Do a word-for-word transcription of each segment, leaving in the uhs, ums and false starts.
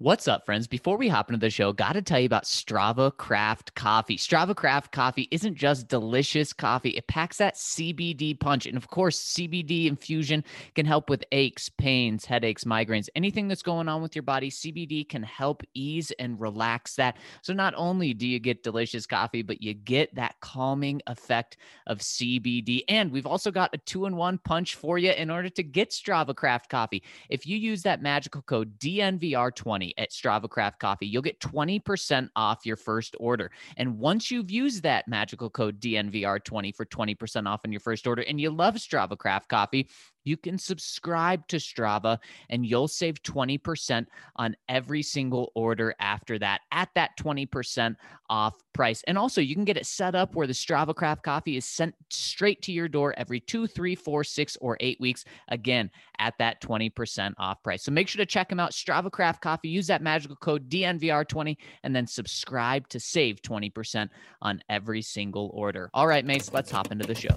What's up, friends? Before we hop into the show, got to tell you about Strava Craft Coffee. Strava Craft Coffee isn't just delicious coffee. It packs that C B D punch. And of course, C B D infusion can help with aches, pains, headaches, migraines, anything that's going on with your body. C B D can help ease and relax that. So not only do you get delicious coffee, but you get that calming effect of C B D. And we've also got a two-in-one punch for you in order to get Strava Craft Coffee. If you use that magical code D N V R twenty at Strava Craft Coffee, you'll get twenty percent off your first order. And once you've used that magical code D N V R twenty for twenty percent off on your first order and you love Strava Craft Coffee, you can subscribe to Strava and you'll save twenty percent on every single order after that at that twenty percent off price. And also you can get it set up where the Strava Craft Coffee is sent straight to your door every two, three, four, six, or eight weeks. Again, at that twenty percent off price. So make sure to check them out. Strava Craft Coffee. Use that magical code D N V R twenty and then subscribe to save twenty percent on every single order. All right, mates, let's hop into the show.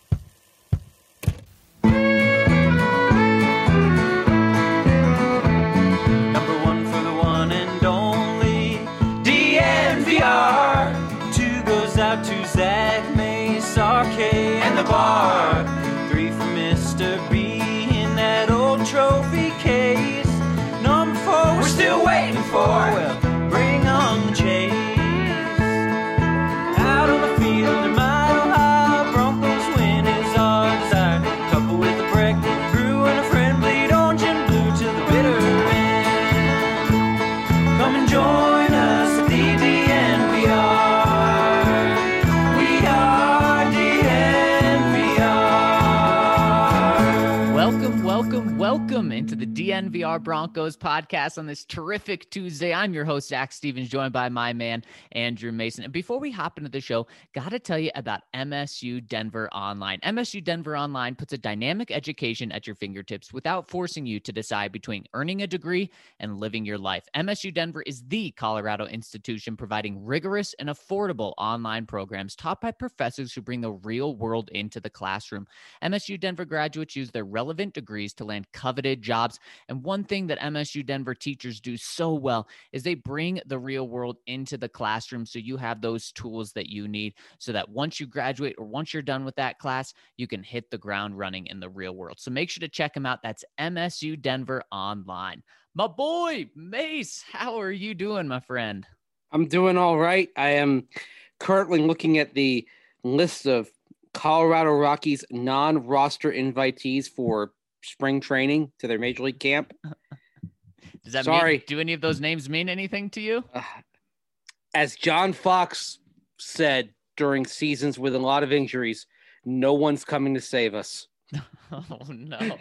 Out to Zach, Mace, R K, and the bar. Three for Mister B in that old trophy case. Number four, we're still waiting for. Well, bring on the chase. Out on the field in Mile High, Broncos win is our desire. Couple with a break, brew and a friend, bleed orange and blue to the bitter end. Come and join us at the D N V R. Welcome, welcome into the D N V R Broncos podcast on this terrific Tuesday. I'm your host, Zach Stevens, joined by my man, Andrew Mason. And before we hop into the show, got to tell you about M S U Denver Online. M S U Denver Online puts a dynamic education at your fingertips without forcing you to decide between earning a degree and living your life. M S U Denver is the Colorado institution providing rigorous and affordable online programs taught by professors who bring the real world into the classroom. M S U Denver graduates use their relevant degrees to land coveted jobs. And one thing that M S U Denver teachers do so well is they bring the real world into the classroom. So you have those tools that you need so that once you graduate or once you're done with that class, you can hit the ground running in the real world. So make sure to check them out. That's M S U Denver Online. My boy, Mace, how are you doing, my friend? I'm doing all right. I am currently looking at the list of Colorado Rockies non-roster invitees for spring training to their major league camp. Does that Sorry. mean, do any of those names mean anything to you? Uh, as John Fox said during seasons with a lot of injuries, no one's coming to save us. Oh no!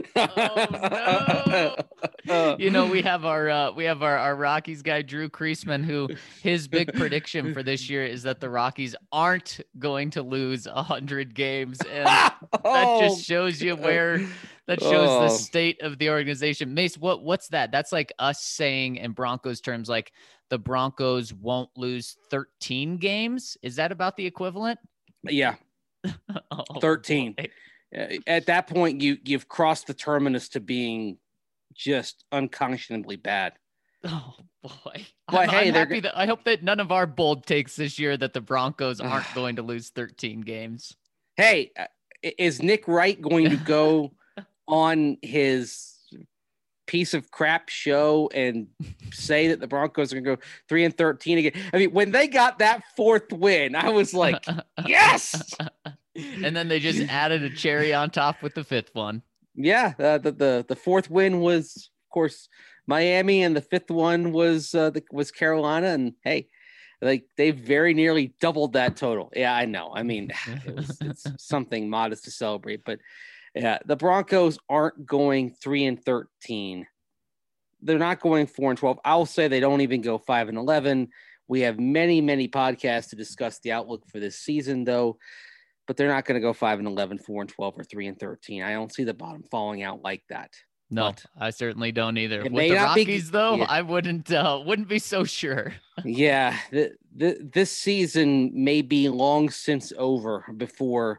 Oh no! You know, we have our uh, we have our, our Rockies guy Drew Kreisman, who his big prediction for this year is that the Rockies aren't going to lose a hundred games, and that just shows you where that shows oh. the state of the organization. Mace, what what's that? That's like us saying in Broncos terms, like the Broncos won't lose thirteen games. Is that about the equivalent? Yeah, oh, thirteen. Boy. At that point, you you've crossed the terminus to being just unconscionably bad. Oh boy! But I'm, hey, I'm they're happy that I hope that none of our bold takes this year that the Broncos aren't going to lose thirteen games. Hey, is Nick Wright going to go on his piece of crap show and say that the Broncos are going to go three and thirteen again? I mean, when they got that fourth win, I was like, yes. And then they just added a cherry on top with the fifth one. Yeah, uh, the, the the fourth win was, of course, Miami, and the fifth one was uh, the, was Carolina. And hey, like they very nearly doubled that total. Yeah, I know. I mean, it was, it's something modest to celebrate, but yeah, the Broncos aren't going three and thirteen. They're not going four and twelve. I'll say they don't even go five and eleven. We have many, many podcasts to discuss the outlook for this season, though. But they're not going to go five and eleven, four and twelve, or three and thirteen. I don't see the bottom falling out like that. No, but I certainly don't either. With may the not be- Rockies, though, yeah. I wouldn't uh, wouldn't be so sure. Yeah, the, the, this season may be long since over before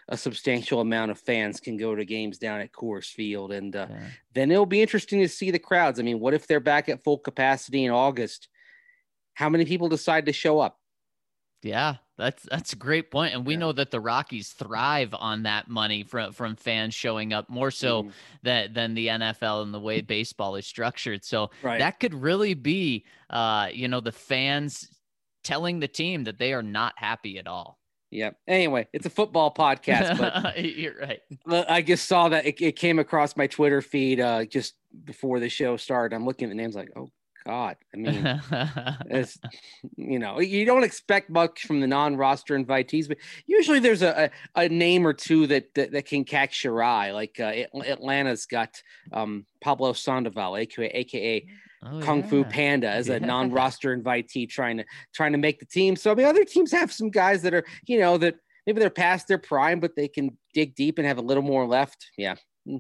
a substantial amount of fans can go to games down at Coors Field. And uh, Yeah. then it'll be interesting to see the crowds. I mean, what if they're back at full capacity in August? How many people decide to show up? Yeah, that's that's a great point. And we Yeah. know that the Rockies thrive on that money from from fans showing up more so Mhm. than than the N F L and the way baseball is structured. So Right. that could really be uh, you know, the fans telling the team that they are not happy at all. Yeah. Anyway, it's a football podcast, but You're right. Well, I just saw that it, it came across my Twitter feed uh, just before the show started. I'm looking at the names like, oh God. I mean, it's, you know, you don't expect much from the non-roster invitees, but usually there's a, a, a name or two that, that, that can catch your eye. Like uh, Atlanta's got um, Pablo Sandoval, aka, AKA Oh, Kung Fu yeah. Panda, as a Yeah. non-roster invitee trying to trying to make the team. So I mean, other teams have some guys that are, you know, that maybe they're past their prime, but they can dig deep and have a little more left. Yeah.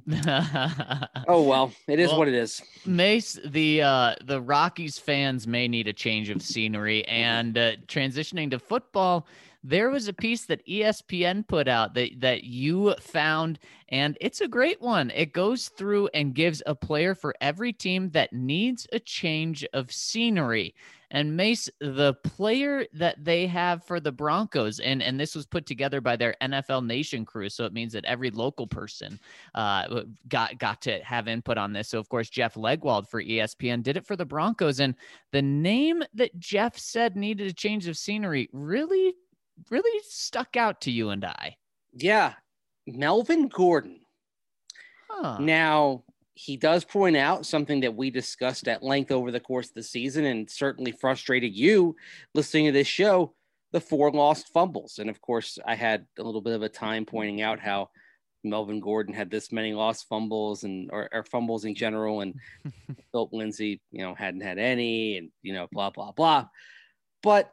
Oh well, it is Well, what it is. Mace, the uh, the Rockies fans may need a change of scenery, and uh, transitioning to football, there was a piece that E S P N put out that that you found, and it's a great one. It goes through and gives a player for every team that needs a change of scenery. And Mace, the player that they have for the Broncos, and, and this was put together by their N F L Nation crew, so it means that every local person uh, got got to have input on this. So, of course, Jeff Legwald for E S P N did it for the Broncos, and the name that Jeff said needed a change of scenery really, really stuck out to you and I. Yeah, Melvin Gordon. Huh. Now, he does point out something that we discussed at length over the course of the season and certainly frustrated you listening to this show, the four lost fumbles. And of course, I had a little bit of a time pointing out how Melvin Gordon had this many lost fumbles and or, or fumbles in general, and Philip Lindsay, you know, hadn't had any, and, you know, blah, blah, blah. But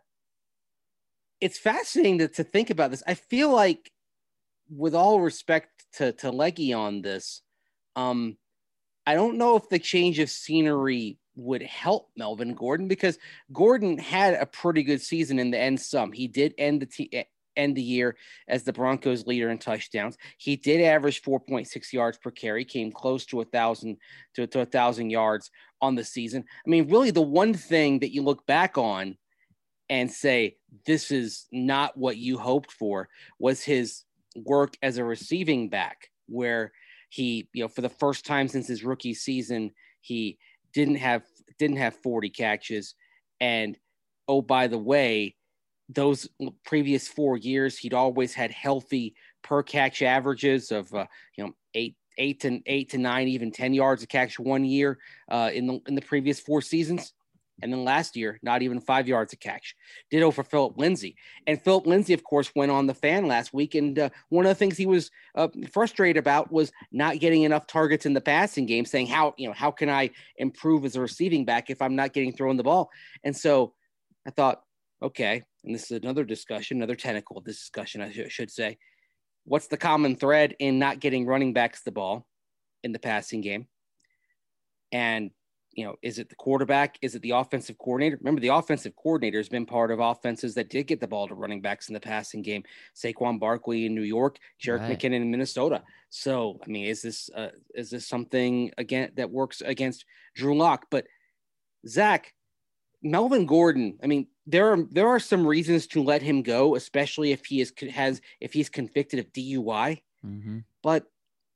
it's fascinating to, to think about this. I feel like, with all respect to, to Leggy on this, um, I don't know if the change of scenery would help Melvin Gordon, because Gordon had a pretty good season in the end some. He did end the t- end the year as the Broncos leader in touchdowns. He did average four point six yards per carry, came close to a thousand to, to a thousand yards on the season. I mean, really the one thing that you look back on and say, this is not what you hoped for, was his work as a receiving back, where he, you know, for the first time since his rookie season, he didn't have didn't have forty catches. And oh, by the way, those previous four years, he'd always had healthy per catch averages of uh, you know eight eight to eight to nine, even ten yards a catch one year uh, in the in the previous four seasons. And then last year, not even five yards a catch. Ditto for Philip Lindsay. And Philip Lindsay, of course, went on the Fan last week. And uh, one of the things he was uh, frustrated about was not getting enough targets in the passing game, saying, how, you know, how can I improve as a receiving back if I'm not getting thrown the ball? And so I thought, okay, and this is another discussion, another technical discussion, I sh- should say. What's the common thread in not getting running backs the ball in the passing game? And you know, is it the quarterback? Is it the offensive coordinator? Remember, the offensive coordinator has been part of offenses that did get the ball to running backs in the passing game. Saquon Barkley in New York, Jerick Right. McKinnon in Minnesota. So, I mean, is this uh, is this something again that works against Drew Lock? But Zach, Melvin Gordon, I mean, there are there are some reasons to let him go, especially if he is has if he's convicted of D U I. Mm-hmm. But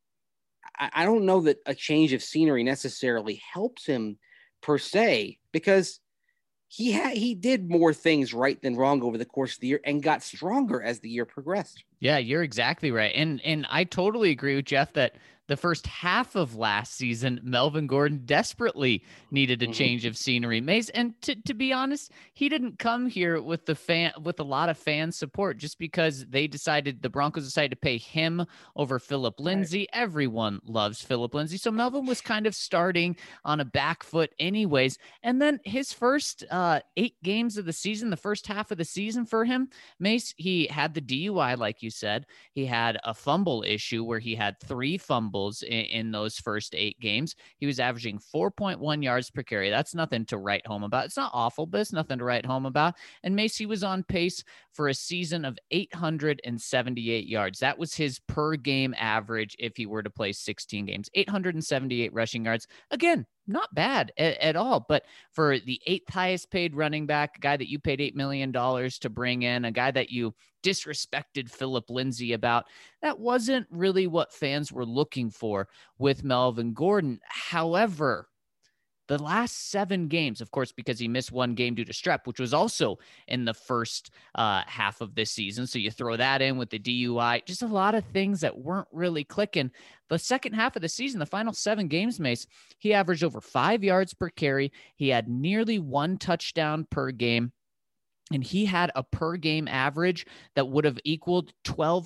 I don't know that a change of scenery necessarily helps him per se, because he had he did more things right than wrong over the course of the year and got stronger as the year progressed. Yeah, you're exactly right. And and I totally agree with Jeff that the first half of last season, Melvin Gordon desperately needed a Mhm. change of scenery. Mace, and to, to be honest, he didn't come here with the fan with a lot of fan support just because they decided the Broncos decided to pay him over Philip Lindsay. Right. Everyone loves Philip Lindsay. So Melvin was kind of starting on a back foot anyways. And then his first uh, eight games of the season, the first half of the season for him, Mace, he had the D U I, like you said. He had a fumble issue where he had three fumbles doubles in, in those first eight games. He was averaging four point one yards per carry. That's nothing to write home about. It's not awful, but it's nothing to write home about. And Macy was on pace for a season of eight hundred seventy-eight yards. That was his per game average if he were to play sixteen games. eight hundred seventy-eight rushing yards. Again, not bad at, at all. But for the eighth highest paid running back, a guy that you paid eight million dollars to bring in, a guy that you disrespected Philip Lindsay about, that wasn't really what fans were looking for with Melvin Gordon. However, the last seven games, of course, because he missed one game due to strep, which was also in the first uh, half of this season. So you throw that in with the D U I, just a lot of things that weren't really clicking. The second half of the season, the final seven games, Mace, he averaged over five yards per carry. He had nearly one touchdown per game. And he had a per game average that would have equaled twelve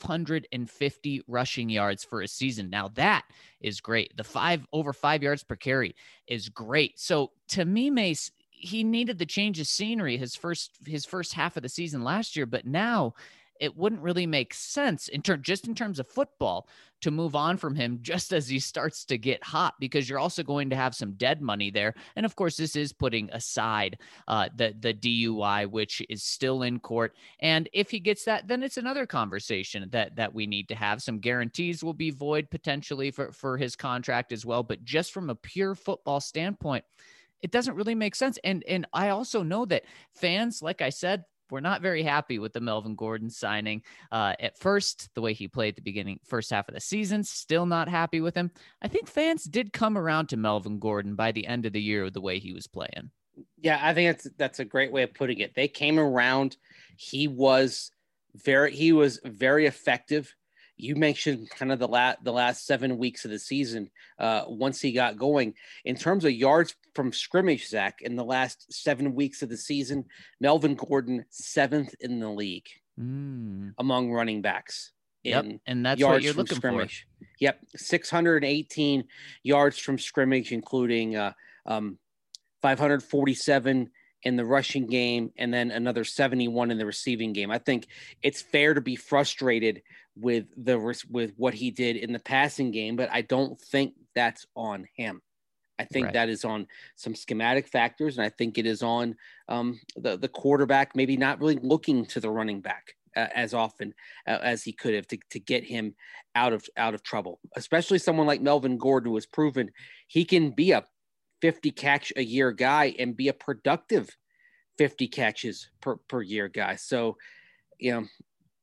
fifty rushing yards for a season. Now that is great. The five over five yards per carry is great. So to me, Mace, he needed the change of scenery his first, his first half of the season last year, but now it wouldn't really make sense in term, just in terms of football to move on from him just as he starts to get hot, because you're also going to have some dead money there. And of course, this is putting aside uh, the, the D U I, which is still in court. And if he gets that, then it's another conversation that, that we need to have. Some guarantees will be void potentially for, for his contract as well. But just from a pure football standpoint, it doesn't really make sense. And, and I also know that fans, like I said, we're not very happy with the Melvin Gordon signing. Uh, at first, the way he played at the beginning, first half of the season, still not happy with him. I think fans did come around to Melvin Gordon by the end of the year with the way he was playing. Yeah, I think that's that's a great way of putting it. They came around. He was very he was very effective. You mentioned kind of the last the last seven weeks of the season. Uh, once he got going, in terms of yards from scrimmage, Zach, in the last seven weeks of the season, Melvin Gordon seventh in the league mm. among running backs. Yep, in and that's yards what you're from looking scrimmage. for. Yep, six hundred eighteen yards from scrimmage, including uh, um, five hundred forty-seven in the rushing game, and then another seventy-one in the receiving game. I think it's fair to be frustrated with the with what he did in the passing game, but I don't think that's on him. I think Right. that is on some schematic factors, and I think it is on um, the the quarterback maybe not really looking to the running back uh, as often uh, as he could have to, to get him out of out of trouble. Especially someone like Melvin Gordon, who has proven he can be a fifty catch a year guy and be a productive fifty catches per, per year guy. So, you know,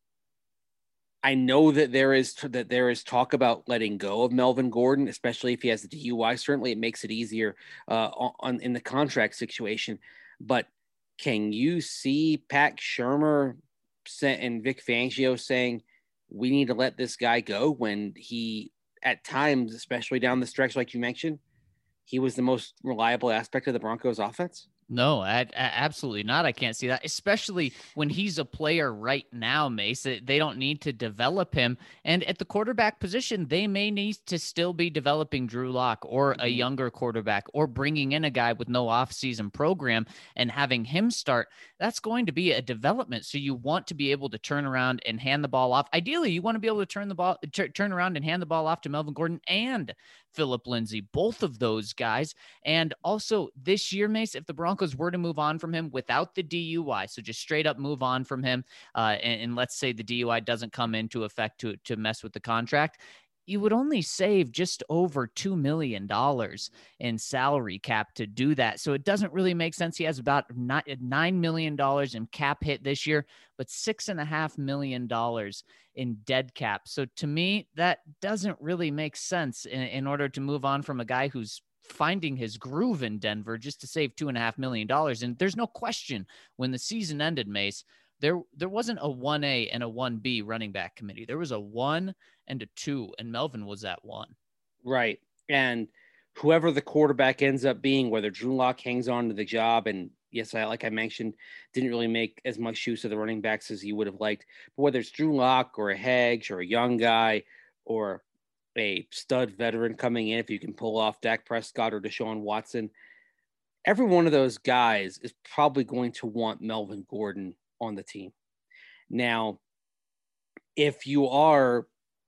I know that there is that there is talk about letting go of Melvin Gordon, especially if he has the D U I. Certainly, it makes it easier uh, on in the contract situation. But can you see Pat Shurmur and Vic Fangio saying we need to let this guy go when he, at times, especially down the stretch, like you mentioned, he was the most reliable aspect of the Broncos offense? No, I, I, absolutely not. I can't see that, especially when he's a player right now, Mace. They don't need to develop him. And at the quarterback position, they may need to still be developing Drew Lock or a younger quarterback, or bringing in a guy with no offseason program and having him start. That's going to be a development. So you want to be able to turn around and hand the ball off. Ideally, you want to be able to turn the ball, t- turn around and hand the ball off to Melvin Gordon and Philip Lindsay, both of those guys. And also this year, Mace, if the Broncos were to move on from him without the D U I, so just straight up move on from him, uh, and, and let's say the D U I doesn't come into effect to, to mess with the contract, you would only save just over two million dollars in salary cap to do that. So it doesn't really make sense. He has about nine million dollars in cap hit this year, but six and a half million dollars in dead cap. So to me, that doesn't really make sense in, in order to move on from a guy who's finding his groove in Denver just to save two and a half million dollars. And there's no question when the season ended, Mace, there, there wasn't a one A and a one B running back committee. There was a one and a two, and Melvin was that one. Right. And whoever the quarterback ends up being, whether Drew Lock hangs on to the job, and yes, I, like I mentioned, didn't really make as much use of the running backs as he would have liked, but whether it's Drew Lock or a Hedge or a young guy or a stud veteran coming in, if you can pull off Dak Prescott or Deshaun Watson, every one of those guys is probably going to want Melvin Gordon on the team. Now, if you are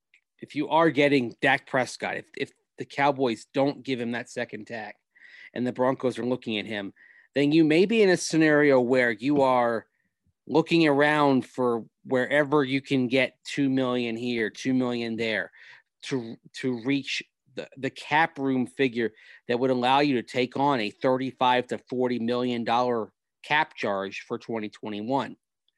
if you are getting Dak Prescott, if if the Cowboys don't give him that second tag, and the Broncos are looking at him, then you may be in a scenario where you are looking around for wherever you can get two million here, two million there, to to reach the, the cap room figure that would allow you to take on a thirty-five to forty million dollar cap charge for twenty twenty-one.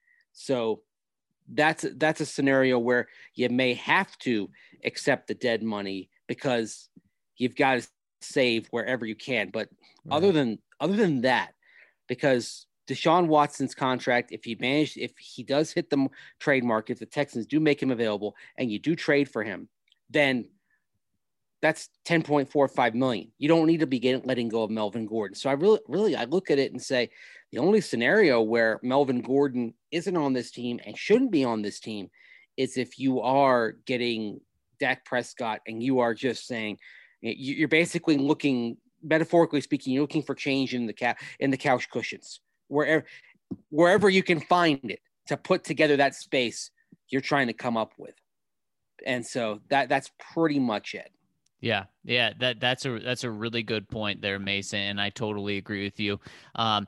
So that's that's a scenario where you may have to accept the dead money because you've got to save wherever you can. But right. other than other than that, because Deshaun Watson's contract, if he managed, if he does hit the trade market, the Texans do make him available and you do trade for him, then that's ten point four five million. You don't need to be getting, letting go of Melvin Gordon. So I really, really, I look at it and say the only scenario where Melvin Gordon isn't on this team and shouldn't be on this team is if you are getting Dak Prescott and you are just saying you're basically looking, metaphorically speaking, you're looking for change in the cap in the couch cushions. Wherever, wherever you can find it to put together that space you're trying to come up with. And so that that's pretty much it. Yeah. Yeah. That that's a, that's a really good point there, Mason. And I totally agree with you. Um,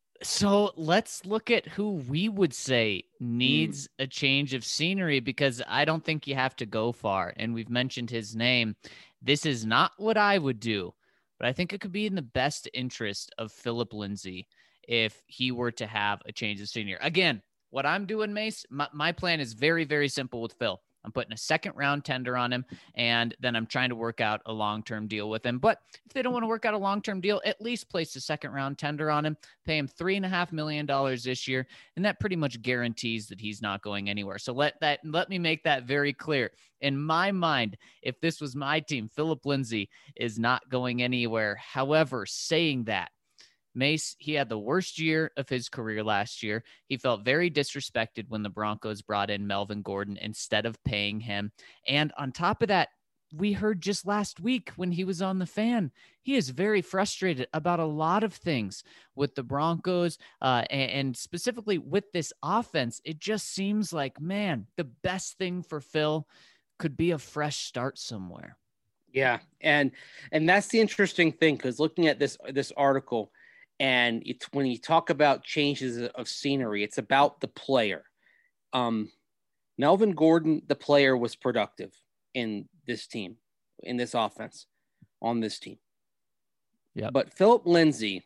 so let's look at who we would say needs mm. a change of scenery, because I don't think you have to go far. And we've mentioned his name. This is not what I would do, but I think it could be in the best interest of Phillip Lindsay if he were to have a change of scenery. Again, what I'm doing, Mace, my, my plan is very, very simple with Phil. I'm putting a second round tender on him, and then I'm trying to work out a long-term deal with him. But if they don't want to work out a long-term deal, at least place a second round tender on him, pay him three and a half million dollars this year. And that pretty much guarantees that he's not going anywhere. So let that, let me make that very clear. In my mind, if this was my team, Phillip Lindsay is not going anywhere. However, saying that, Mace, he had the worst year of his career last year. He felt very disrespected when the Broncos brought in Melvin Gordon instead of paying him. And on top of that, we heard just last week when he was on the Fan, he is very frustrated about a lot of things with the Broncos uh, and, and specifically with this offense. It just seems like, man, the best thing for Phil could be a fresh start somewhere. Yeah. And, and that's the interesting thing, because looking at this, this article, and it's when you talk about changes of scenery, it's about the player. Um, Melvin Gordon, the player, was productive in this team, in this offense, on this team. Yeah. But Phillip Lindsay,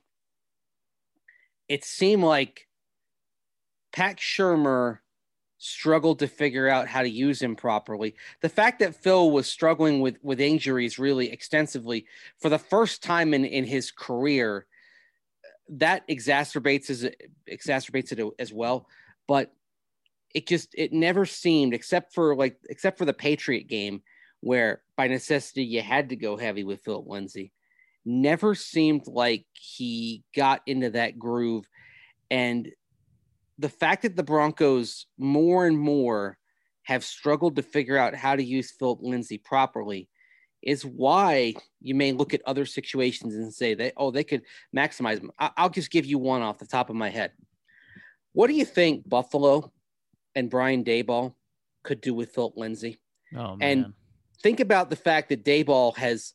it seemed like Pat Shurmur struggled to figure out how to use him properly. The fact that Phil was struggling with, with injuries really extensively for the first time in, in his career, that exacerbates as exacerbates it as well. But it just, it never seemed, except for like, except for the Patriot game where by necessity you had to go heavy with Phillip Lindsay, never seemed like he got into that groove. And the fact that the Broncos more and more have struggled to figure out how to use Phillip Lindsay properly is why you may look at other situations and say that, oh, they could maximize them. I'll just give you one off the top of my head. What do you think Buffalo and Brian Daboll could do with Phillip Lindsay? Oh, man. And think about the fact that Daboll has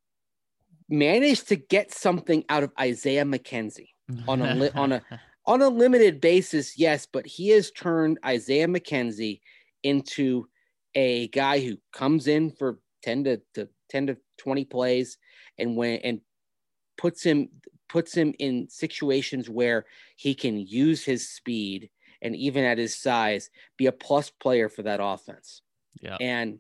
managed to get something out of Isaiah McKenzie on a li- on a on a limited basis, yes, but he has turned Isaiah McKenzie into a guy who comes in for ten to, to ten to twenty plays and when and puts him puts him in situations where he can use his speed and even at his size be a plus player for that offense. Yeah. And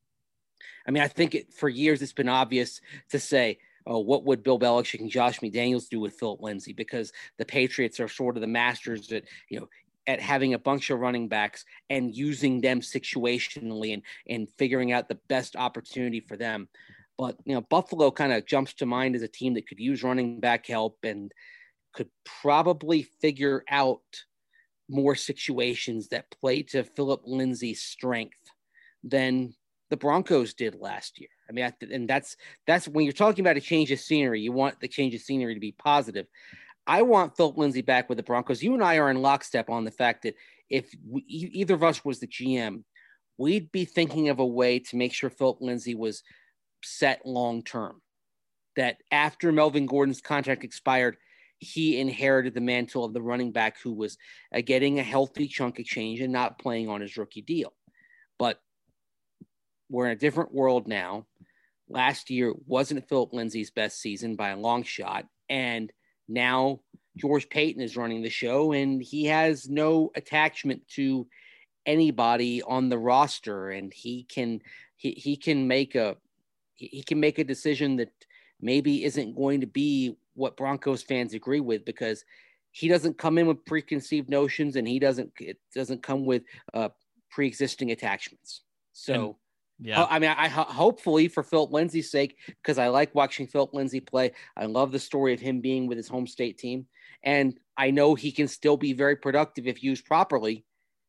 I mean, I think it, for years it's been obvious to say, oh, what would Bill Belichick and Josh McDaniels do with Phillip Lindsay? Because the Patriots are sort of the masters at, you know, at having a bunch of running backs and using them situationally and, and figuring out the best opportunity for them. But, you know, Buffalo kind of jumps to mind as a team that could use running back help and could probably figure out more situations that play to Phillip Lindsay's strength than the Broncos did last year. I mean, I, and that's, that's when you're talking about a change of scenery, you want the change of scenery to be positive. I want Phillip Lindsay back with the Broncos. You and I are in lockstep on the fact that if we, either of us was the G M, we'd be thinking of a way to make sure Philip Lindsay was set long term. That after Melvin Gordon's contract expired, he inherited the mantle of the running back who was uh, getting a healthy chunk exchange and not playing on his rookie deal. But we're in a different world now. Last year wasn't Philip Lindsay's best season by a long shot. And now George Paton is running the show, and he has no attachment to anybody on the roster. And he can, he, he can make a, he can make a decision that maybe isn't going to be what Broncos fans agree with, because he doesn't come in with preconceived notions, and he doesn't, it doesn't come with uh, pre-existing attachments. So, and, yeah, I mean, I, I hopefully for Philip Lindsay's sake, because I like watching Philip Lindsay play. I love the story of him being with his home state team, and I know he can still be very productive if used properly.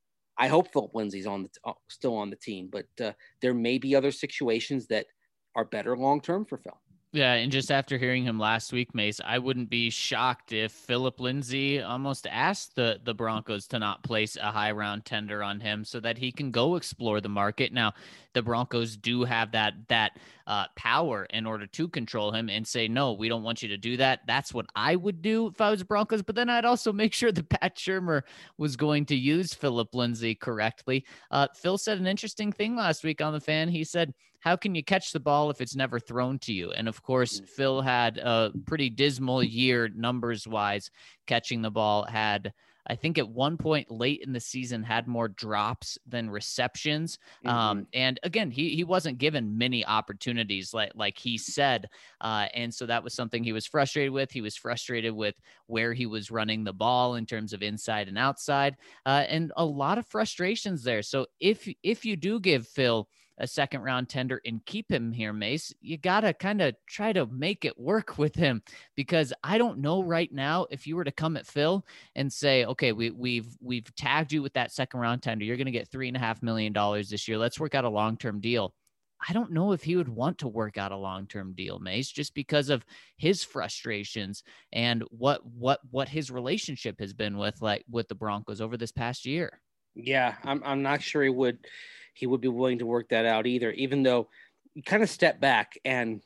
I hope Philip Lindsay's on the uh, still on the team, but uh, there may be other situations that are better long term for Phil. Yeah, and just after hearing him last week, Mace, I wouldn't be shocked if Philip Lindsay almost asked the, the Broncos to not place a high round tender on him so that he can go explore the market. Now, the Broncos do have that that uh, power in order to control him and say, no, we don't want you to do that. That's what I would do if I was Broncos. But then I'd also make sure that Pat Shurmur was going to use Philip Lindsay correctly. Uh, Phil said an interesting thing last week on The Fan. He said, how can you catch the ball if it's never thrown to you? And of course, Phil had a pretty dismal year numbers wise, catching the ball. Had, I think at one point late in the season, had more drops than receptions. Mm-hmm. Um, and again, he he wasn't given many opportunities like, like he said. Uh, and so that was something he was frustrated with. He was frustrated with where he was running the ball in terms of inside and outside, uh, and a lot of frustrations there. So if, if you do give Phil a second round tender and keep him here, Mace, you got to kind of try to make it work with him, because I don't know right now if you were to come at Phil and say, okay, we, we've, we've tagged you with that second round tender. You're going to get three and a half million dollars this year. Let's work out a long-term deal. I don't know if he would want to work out a long-term deal, Mace, just because of his frustrations and what, what, what his relationship has been with, like with the Broncos over this past year. Yeah. I'm, I'm not sure he would, he would be willing to work that out either, even though you kind of step back and,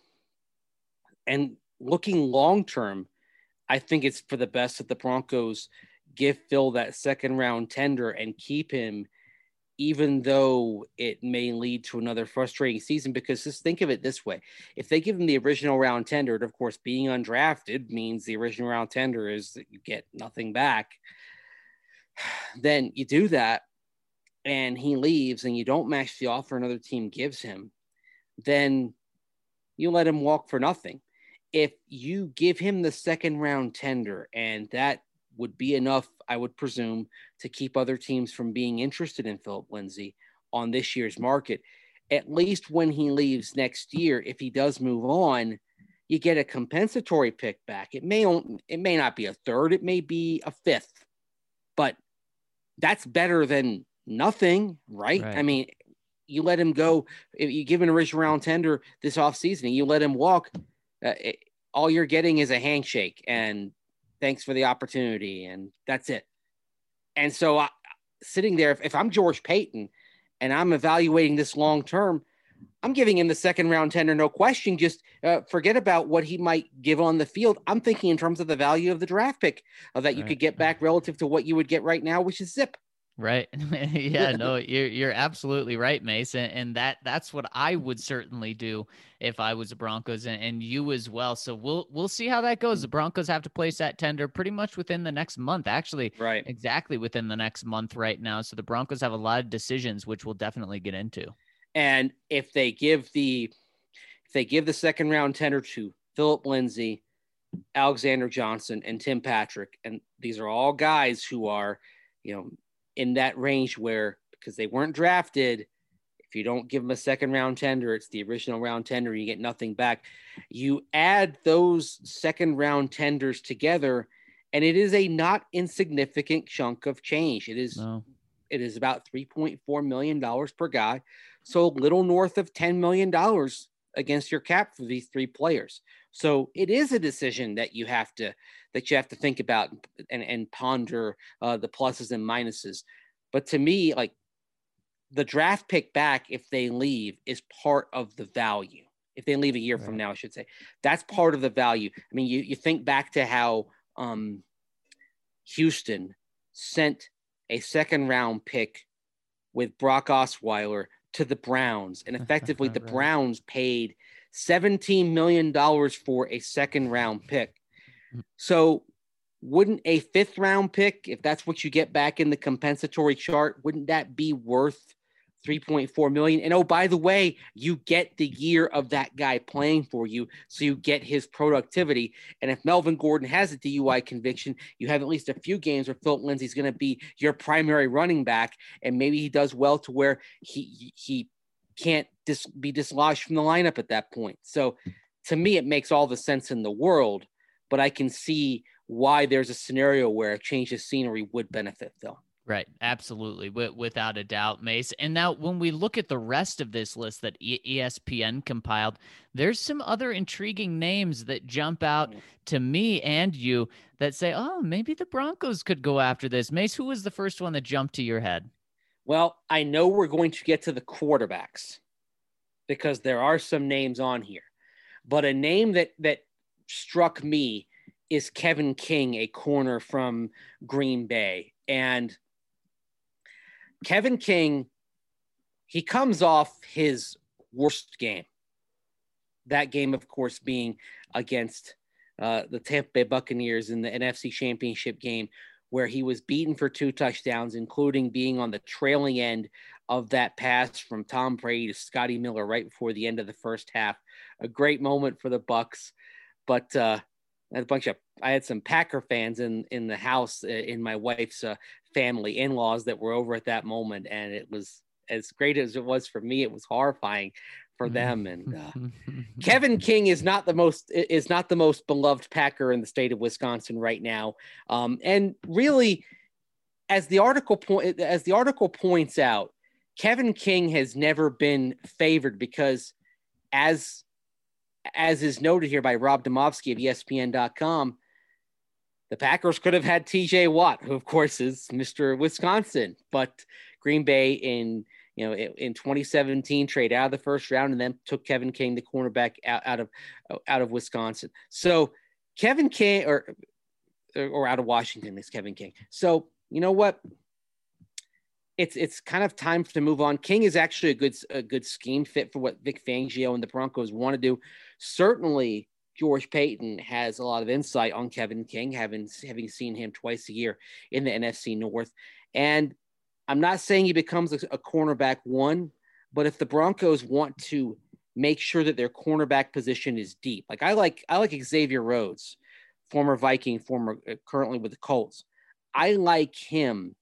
and looking long-term, I think it's for the best that the Broncos give Phil that second round tender and keep him, even though it may lead to another frustrating season. Because just think of it this way. If they give him the original round tender, and of course being undrafted means the original round tender is that you get nothing back, then you do that and he leaves and you don't match the offer another team gives him, then you let him walk for nothing. If you give him the second round tender, and that would be enough, I would presume, to keep other teams from being interested in Philip Lindsay on this year's market, at least when he leaves next year, if he does move on, you get a compensatory pick back. It may, it may not be a third, it may be a fifth, but that's better than nothing, right? right? I mean, you let him go. If you give an original round tender this offseason and you let him walk, uh, it, all you're getting is a handshake and thanks for the opportunity, and that's it. And so uh, sitting there, if, if I'm George Paton and I'm evaluating this long term, I'm giving him the second round tender, no question. Just uh, forget about what he might give on the field. I'm thinking in terms of the value of the draft pick uh, that you right. could get back relative to what you would get right now, which is zip. Right. Yeah, no, you're, you're absolutely right, Mace. And, and that, that's what I would certainly do if I was the Broncos, and, and you as well. So we'll, we'll see how that goes. The Broncos have to place that tender pretty much within the next month, actually, right? Exactly within the next month right now. So the Broncos have a lot of decisions, which we'll definitely get into. And if they give the, if they give the second round tender to Philip Lindsay, Alexander Johnson, and Tim Patrick, and these are all guys who are, you know, in that range where, because they weren't drafted, if you don't give them a second round tender, it's the original round tender, you get nothing back. You add those second round tenders together, and it is a not insignificant chunk of change. It is, no. It is about three point four million dollars per guy. So a little north of ten million dollars against your cap for these three players. So it is a decision that you have to, that you have to think about and, and ponder uh, the pluses and minuses. But to me, like, the draft pick back, if they leave, is part of the value. If they leave a year right. from now, I should say, that's part of the value. I mean, you, you think back to how um, Houston sent a second round pick with Brock Osweiler to the Browns, and effectively the right. Browns paid seventeen million dollars for a second round pick. So wouldn't a fifth round pick, if that's what you get back in the compensatory chart, wouldn't that be worth three point four million dollars? And oh, by the way, you get the year of that guy playing for you, so you get his productivity. And if Melvin Gordon has a D U I conviction, you have at least a few games where Philip Lindsay's going to be your primary running back, and maybe he does well to where he he can't dis- be dislodged from the lineup at that point. So to me, it makes all the sense in the world, but I can see why there's a scenario where a change of scenery would benefit Phil. Right. Absolutely. W- without a doubt, Mace. And now when we look at the rest of this list that e- ESPN compiled, there's some other intriguing names that jump out to me and you that say, oh, maybe the Broncos could go after this. Mace, who was the first one that jumped to your head? Well, I know we're going to get to the quarterbacks because there are some names on here, but a name that, that struck me is Kevin King, a corner from Green Bay. And Kevin King, he comes off his worst game. That game, of course, being against uh, the Tampa Bay Buccaneers in the N F C Championship game, where he was beaten for two touchdowns, including being on the trailing end of that pass from Tom Brady to Scotty Miller right before the end of the first half. A great moment for the Bucs, but uh, I had a bunch of I had some Packer fans in in the house in my wife's uh, family, in-laws that were over at that moment, and it was as great as it was for me. It was horrifying for them. And uh, Kevin King is not the most is not the most beloved Packer in the state of Wisconsin right now. Um, and really, as the article point as the article points out, Kevin King has never been favored because, as as is noted here by Rob Demovsky of E S P N dot com, the Packers could have had T J Watt, who of course is Mister Wisconsin, but Green Bay in you know in twenty seventeen trade out of the first round and then took Kevin King, the cornerback, out, out of out of Wisconsin. So Kevin King, or or out of Washington, is Kevin King. So you know what? It's it's kind of time to move on. King is actually a good a good scheme fit for what Vic Fangio and the Broncos want to do. Certainly, George Payton has a lot of insight on Kevin King, having having seen him twice a year in the N F C North. And I'm not saying he becomes a, a cornerback one, but if the Broncos want to make sure that their cornerback position is deep, like I like I like Xavier Rhodes, former Viking, former uh, currently with the Colts. I like him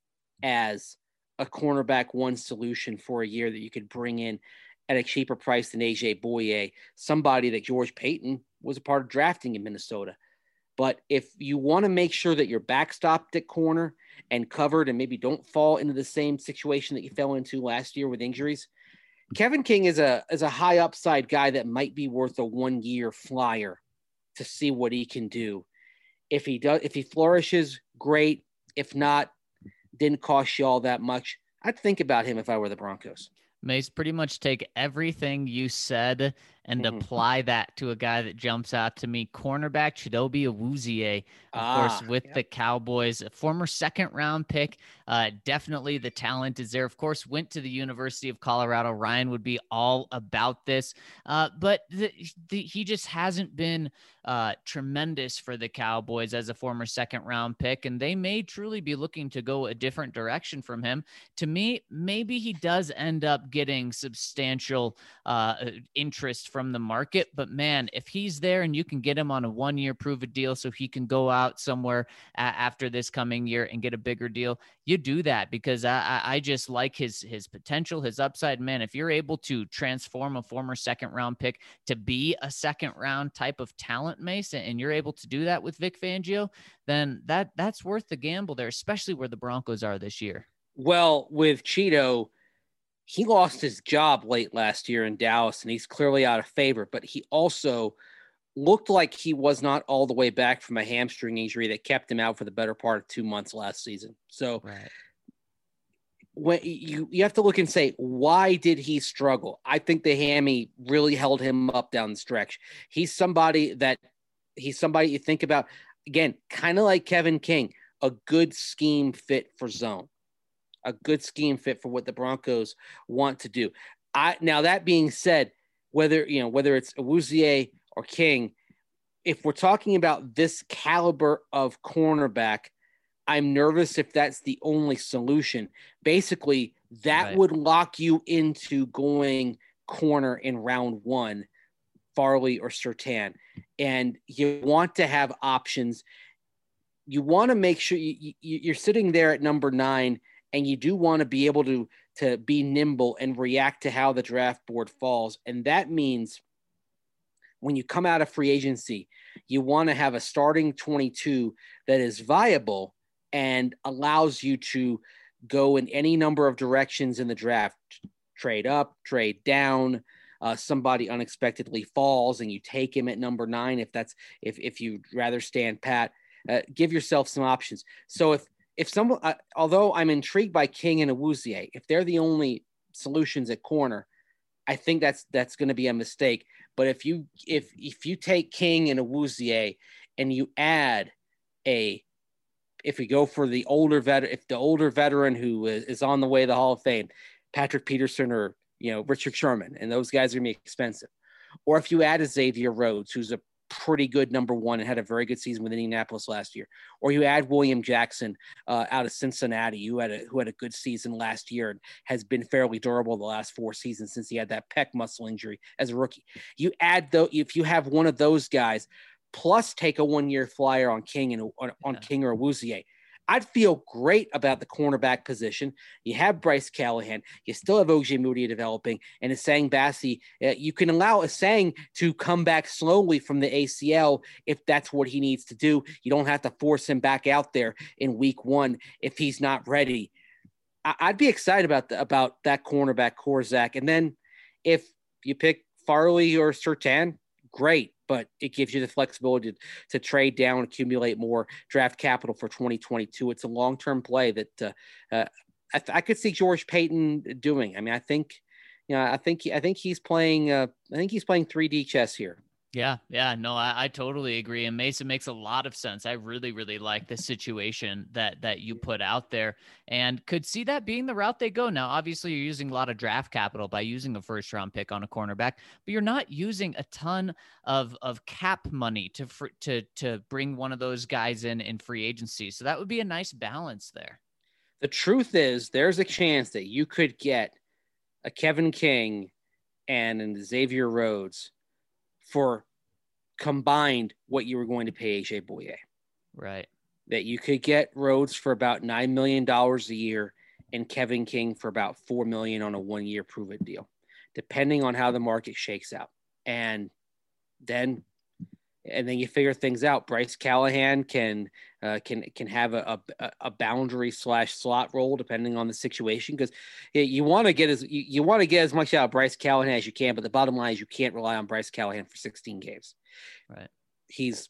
as a cornerback one solution for a year that you could bring in at a cheaper price than A J Bouye, somebody that George Payton was a part of drafting in Minnesota. But if you want to make sure that you're backstopped at corner and covered and maybe don't fall into the same situation that you fell into last year with injuries, Kevin King is a is a high upside guy that might be worth a one year flyer to see what he can do. If he does, if he flourishes, great. If not, didn't cost you all that much, I'd think about him if I were the Broncos. Mace, pretty much take everything you said and mm-hmm. apply that to a guy that jumps out to me. Cornerback Chidobe Awuzie, of ah, course, with yep. the Cowboys, a former second round pick. Uh, definitely the talent is there. Of course, went to the University of Colorado. Ryan would be all about this, uh, but the, the, he just hasn't been uh, tremendous for the Cowboys as a former second round pick, and they may truly be looking to go a different direction from him. To me, maybe he does end up getting substantial uh, interest from the market, but man, if he's there and you can get him on a one-year prove a deal so he can go out somewhere a- after this coming year and get a bigger deal, you do that, because I, I just like his his potential, his upside. Man, if you're able to transform a former second round pick to be a second round type of talent, Mace, and you're able to do that with Vic Fangio, then that that's worth the gamble there, especially where the Broncos are this year. Well, with Cheeto, he lost his job late last year in Dallas, and he's clearly out of favor, but he also looked like he was not all the way back from a hamstring injury that kept him out for the better part of two months last season. So right. when you, you have to look and say, why did he struggle? I think the hammy really held him up down the stretch. He's somebody that he's somebody you think about, again, kind of like Kevin King, a good scheme fit for zone, a good scheme fit for what the Broncos want to do. I, now that being said, whether, you know, whether it's Awuzie or King, if we're talking about this caliber of cornerback, I'm nervous if that's the only solution. Basically, that Right. would lock you into going corner in round one, Farley or Surtain. And you want to have options. You want to make sure you, you, you're sitting there at number nine, and you do want to be able to, to be nimble and react to how the draft board falls. And that means when you come out of free agency, you want to have a starting twenty-two that is viable and allows you to go in any number of directions in the draft, trade up, trade down. Uh, somebody unexpectedly falls and you take him at number nine. If that's, if, if you'd rather stand pat, uh, give yourself some options. So if, if someone, uh, although I'm intrigued by King and Awuzie, if they're the only solutions at corner, I think that's, that's going to be a mistake. But if you, if, if you take King and Awuzie and you add a, if we go for the older veteran, if the older veteran who is, is on the way to the Hall of Fame, Patrick Peterson or, you know, Richard Sherman, and those guys are going to be expensive. Or if you add a Xavier Rhodes, who's a pretty good number one and had a very good season with Indianapolis last year, or you add William Jackson uh, out of Cincinnati, who had a, who had a good season last year and has been fairly durable the last four seasons since he had that pec muscle injury as a rookie. You add though, if you have one of those guys, plus take a one-year flyer on King and on, on Yeah. King or Awuzie, I'd feel great about the cornerback position. You have Bryce Callahan. You still have O J Moody developing, and Essang Bassey. Uh, you can allow Essang to come back slowly from the A C L if that's what he needs to do. You don't have to force him back out there in week one if he's not ready. I- I'd be excited about the, about that cornerback core, Zach. And then if you pick Farley or Surtain, great. But it gives you the flexibility to, to trade down, accumulate more draft capital for twenty twenty-two. It's a long-term play that uh, uh, I, th- I could see George Payton doing. I mean, I think, you know, I think I think he's playing. Uh, I think he's playing three D chess here. Yeah, yeah, no, I, I totally agree. And Mason makes a lot of sense. I really, really like the situation that that you put out there and could see that being the route they go. Now, obviously, you're using a lot of draft capital by using a first round pick on a cornerback, but you're not using a ton of of cap money to fr- to to bring one of those guys in in free agency. So that would be a nice balance there. The truth is, there's a chance that you could get a Kevin King and an Xavier Rhodes for combined what you were going to pay A J Bouye. Right. That you could get Rhodes for about nine million dollars a year and Kevin King for about four million dollars on a one-year prove-it deal, depending on how the market shakes out. And then and then you figure things out. Bryce Callahan can uh, can can have a, a, a boundary slash slot role depending on the situation, because you want to get as you, you want to get as much out of Bryce Callahan as you can, but the bottom line is you can't rely on Bryce Callahan for sixteen games. Right. He's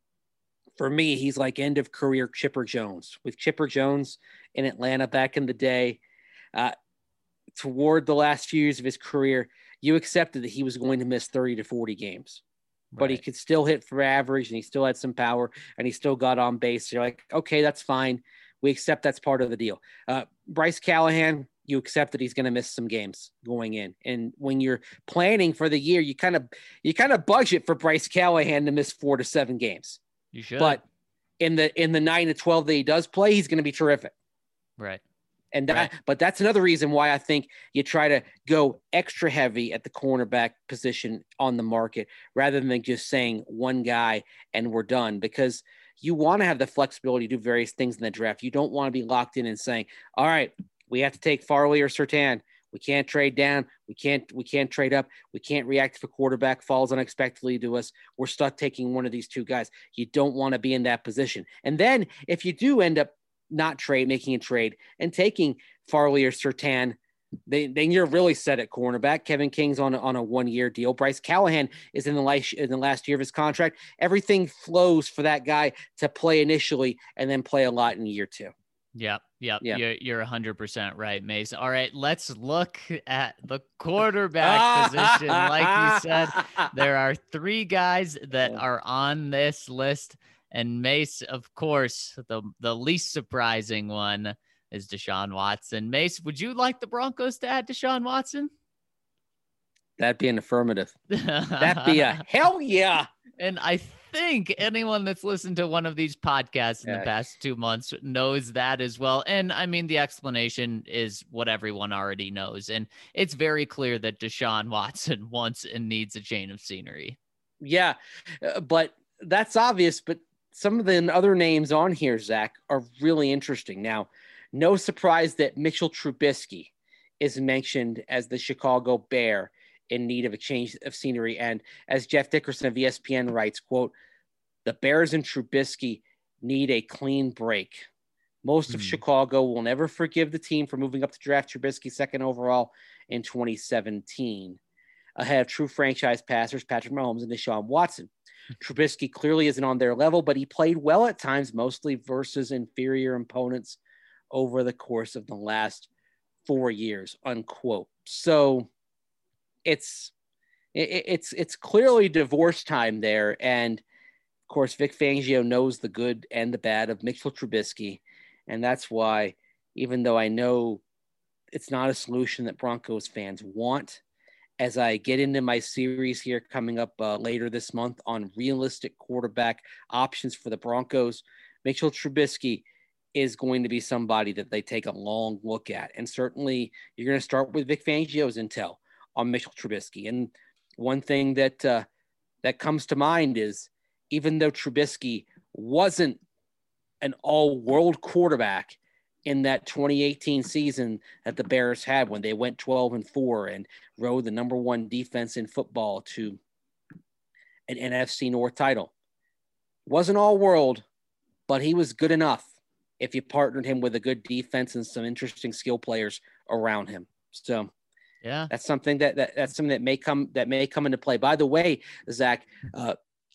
for me, he's like end of career Chipper Jones. With Chipper Jones in Atlanta back in the day, uh, toward the last few years of his career, you accepted that he was going to miss thirty to forty games. But he Right. could still hit for average and he still had some power and he still got on base. So you're like, okay, that's fine. We accept that's part of the deal. Uh, Bryce Callahan, you accept that he's going to miss some games going in. And when you're planning for the year, you kind of, you kind of budget for Bryce Callahan to miss four to seven games. You should. But in the, in the nine to twelve that he does play, he's going to be terrific. right. And that, Right. but that's another reason why I think you try to go extra heavy at the cornerback position on the market rather than just saying one guy and we're done, because you want to have the flexibility to do various things in the draft. You don't want to be locked in and saying, all right, we have to take Farley or Surtain. We can't trade down. We can't, we can't trade up. We can't react if a quarterback falls unexpectedly to us. We're stuck taking one of these two guys. You don't want to be in that position. And then if you do end up not trade, making a trade and taking Farley or Surtain, they, then you're really set at cornerback. Kevin King's on a, on a one-year deal. Bryce Callahan is in the last in the last year of his contract. Everything flows for that guy to play initially and then play a lot in year two. Yep, yep. Yeah. You're you're one hundred percent right, Mace. All right, let's look at the quarterback position. Like you said, there are three guys that are on this list, and Mace, of course, the the least surprising one is Deshaun Watson. Mace, would you like the Broncos to add Deshaun Watson? That'd be an affirmative. That'd be a hell yeah. And I think anyone that's listened to one of these podcasts in Yeah. the past two months knows that as well. And I mean, the explanation is what everyone already knows. And it's very clear that Deshaun Watson wants and needs a change of scenery. Yeah, uh, but that's obvious. But some of the other names on here, Zach, are really interesting. Now, no surprise that Mitchell Trubisky is mentioned as the Chicago Bear in need of a change of scenery. And as Jeff Dickerson of E S P N writes, quote, the Bears and Trubisky need a clean break. Most of Hmm. Chicago will never forgive the team for moving up to draft Trubisky second overall in twenty seventeen, ahead of true franchise passers Patrick Mahomes and Deshaun Watson. Trubisky clearly isn't on their level, but he played well at times, mostly versus inferior opponents over the course of the last four years, unquote. So it's it, it's it's clearly divorce time there. And of course, Vic Fangio knows the good and the bad of Mitchell Trubisky. And that's why, even though I know it's not a solution that Broncos fans want, as I get into my series here coming up uh, later this month on realistic quarterback options for the Broncos, Mitchell Trubisky is going to be somebody that they take a long look at. And certainly you're going to start with Vic Fangio's intel on Mitchell Trubisky. And one thing that uh, that comes to mind is, even though Trubisky wasn't an all-world quarterback in that twenty eighteen season that the Bears had when they went twelve and four and rode the number one defense in football to an N F C North title, wasn't all-world, but he was good enough if you partnered him with a good defense and some interesting skill players around him. So Yeah. that's something that, that that's something that may come that may come into play. By the way, Zach, uh,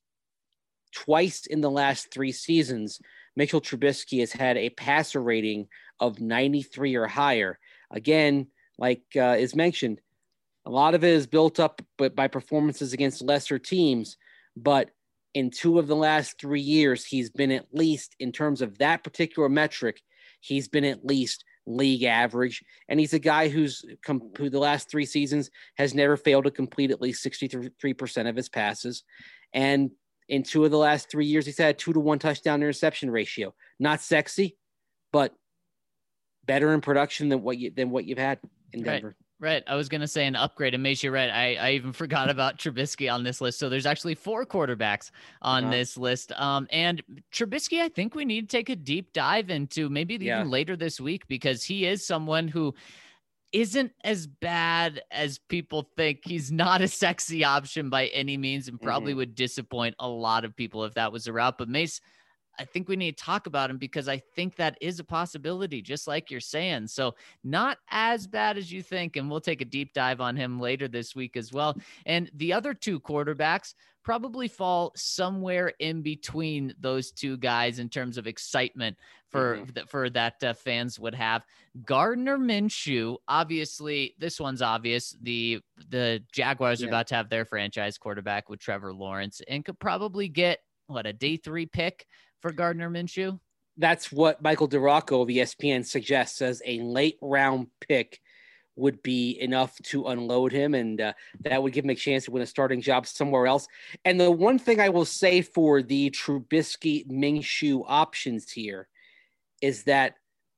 twice in the last three seasons, Mitchell Trubisky has had a passer rating of ninety-three or higher. Again, like uh, is mentioned, a lot of it is built up but by performances against lesser teams. But in two of the last three years, he's been at least, in terms of that particular metric, he's been at least league average. And he's a guy who's com- who the last three seasons has never failed to complete at least sixty-three percent of his passes. And in two of the last three years, he's had a two to one touchdown interception ratio. Not sexy, but better in production than what you than what you've had in Denver. Right. Right. I was going to say an upgrade, and Mace, you're right. I, I even forgot about Trubisky on this list. So there's actually four quarterbacks on Uh-huh. this list. Um, and Trubisky, I think we need to take a deep dive into maybe Yeah. even later this week, because he is someone who isn't as bad as people think. He's not a sexy option by any means, and probably Mhm. would disappoint a lot of people if that was the route. But Mace, I think we need to talk about him, because I think that is a possibility, just like you're saying. So not as bad as you think. And we'll take a deep dive on him later this week as well. And the other two quarterbacks probably fall somewhere in between those two guys in terms of excitement for, Mhm. th- for that uh, fans would have. Gardner Minshew, obviously, this one's obvious. The, the Jaguars are Yeah. about to have their franchise quarterback with Trevor Lawrence, and could probably get what, a day three pick for Gardner Minshew. That's what Michael DeRocco of E S P N suggests, says a late round pick would be enough to unload him, and uh, that would give him a chance to win a starting job somewhere else. And the one thing I will say for the Trubisky Minshew options here is that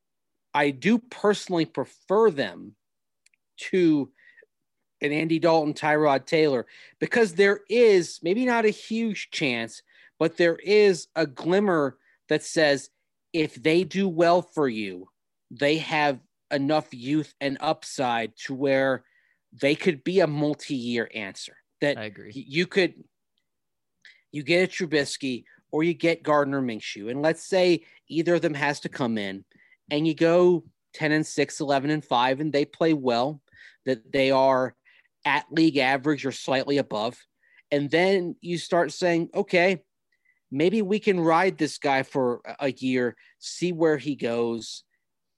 I do personally prefer them to an Andy Dalton, Tyrod Taylor, because there is maybe not a huge chance, but there is a glimmer that says if they do well for you, they have enough youth and upside to where they could be a multi-year answer. That I agree. you could, you get a Trubisky or you get Gardner Minshew, and let's say either of them has to come in, and you go ten and six, eleven and five, and they play well, that they are at league average or slightly above. And then you start saying, okay, maybe we can ride this guy for a year, see where he goes,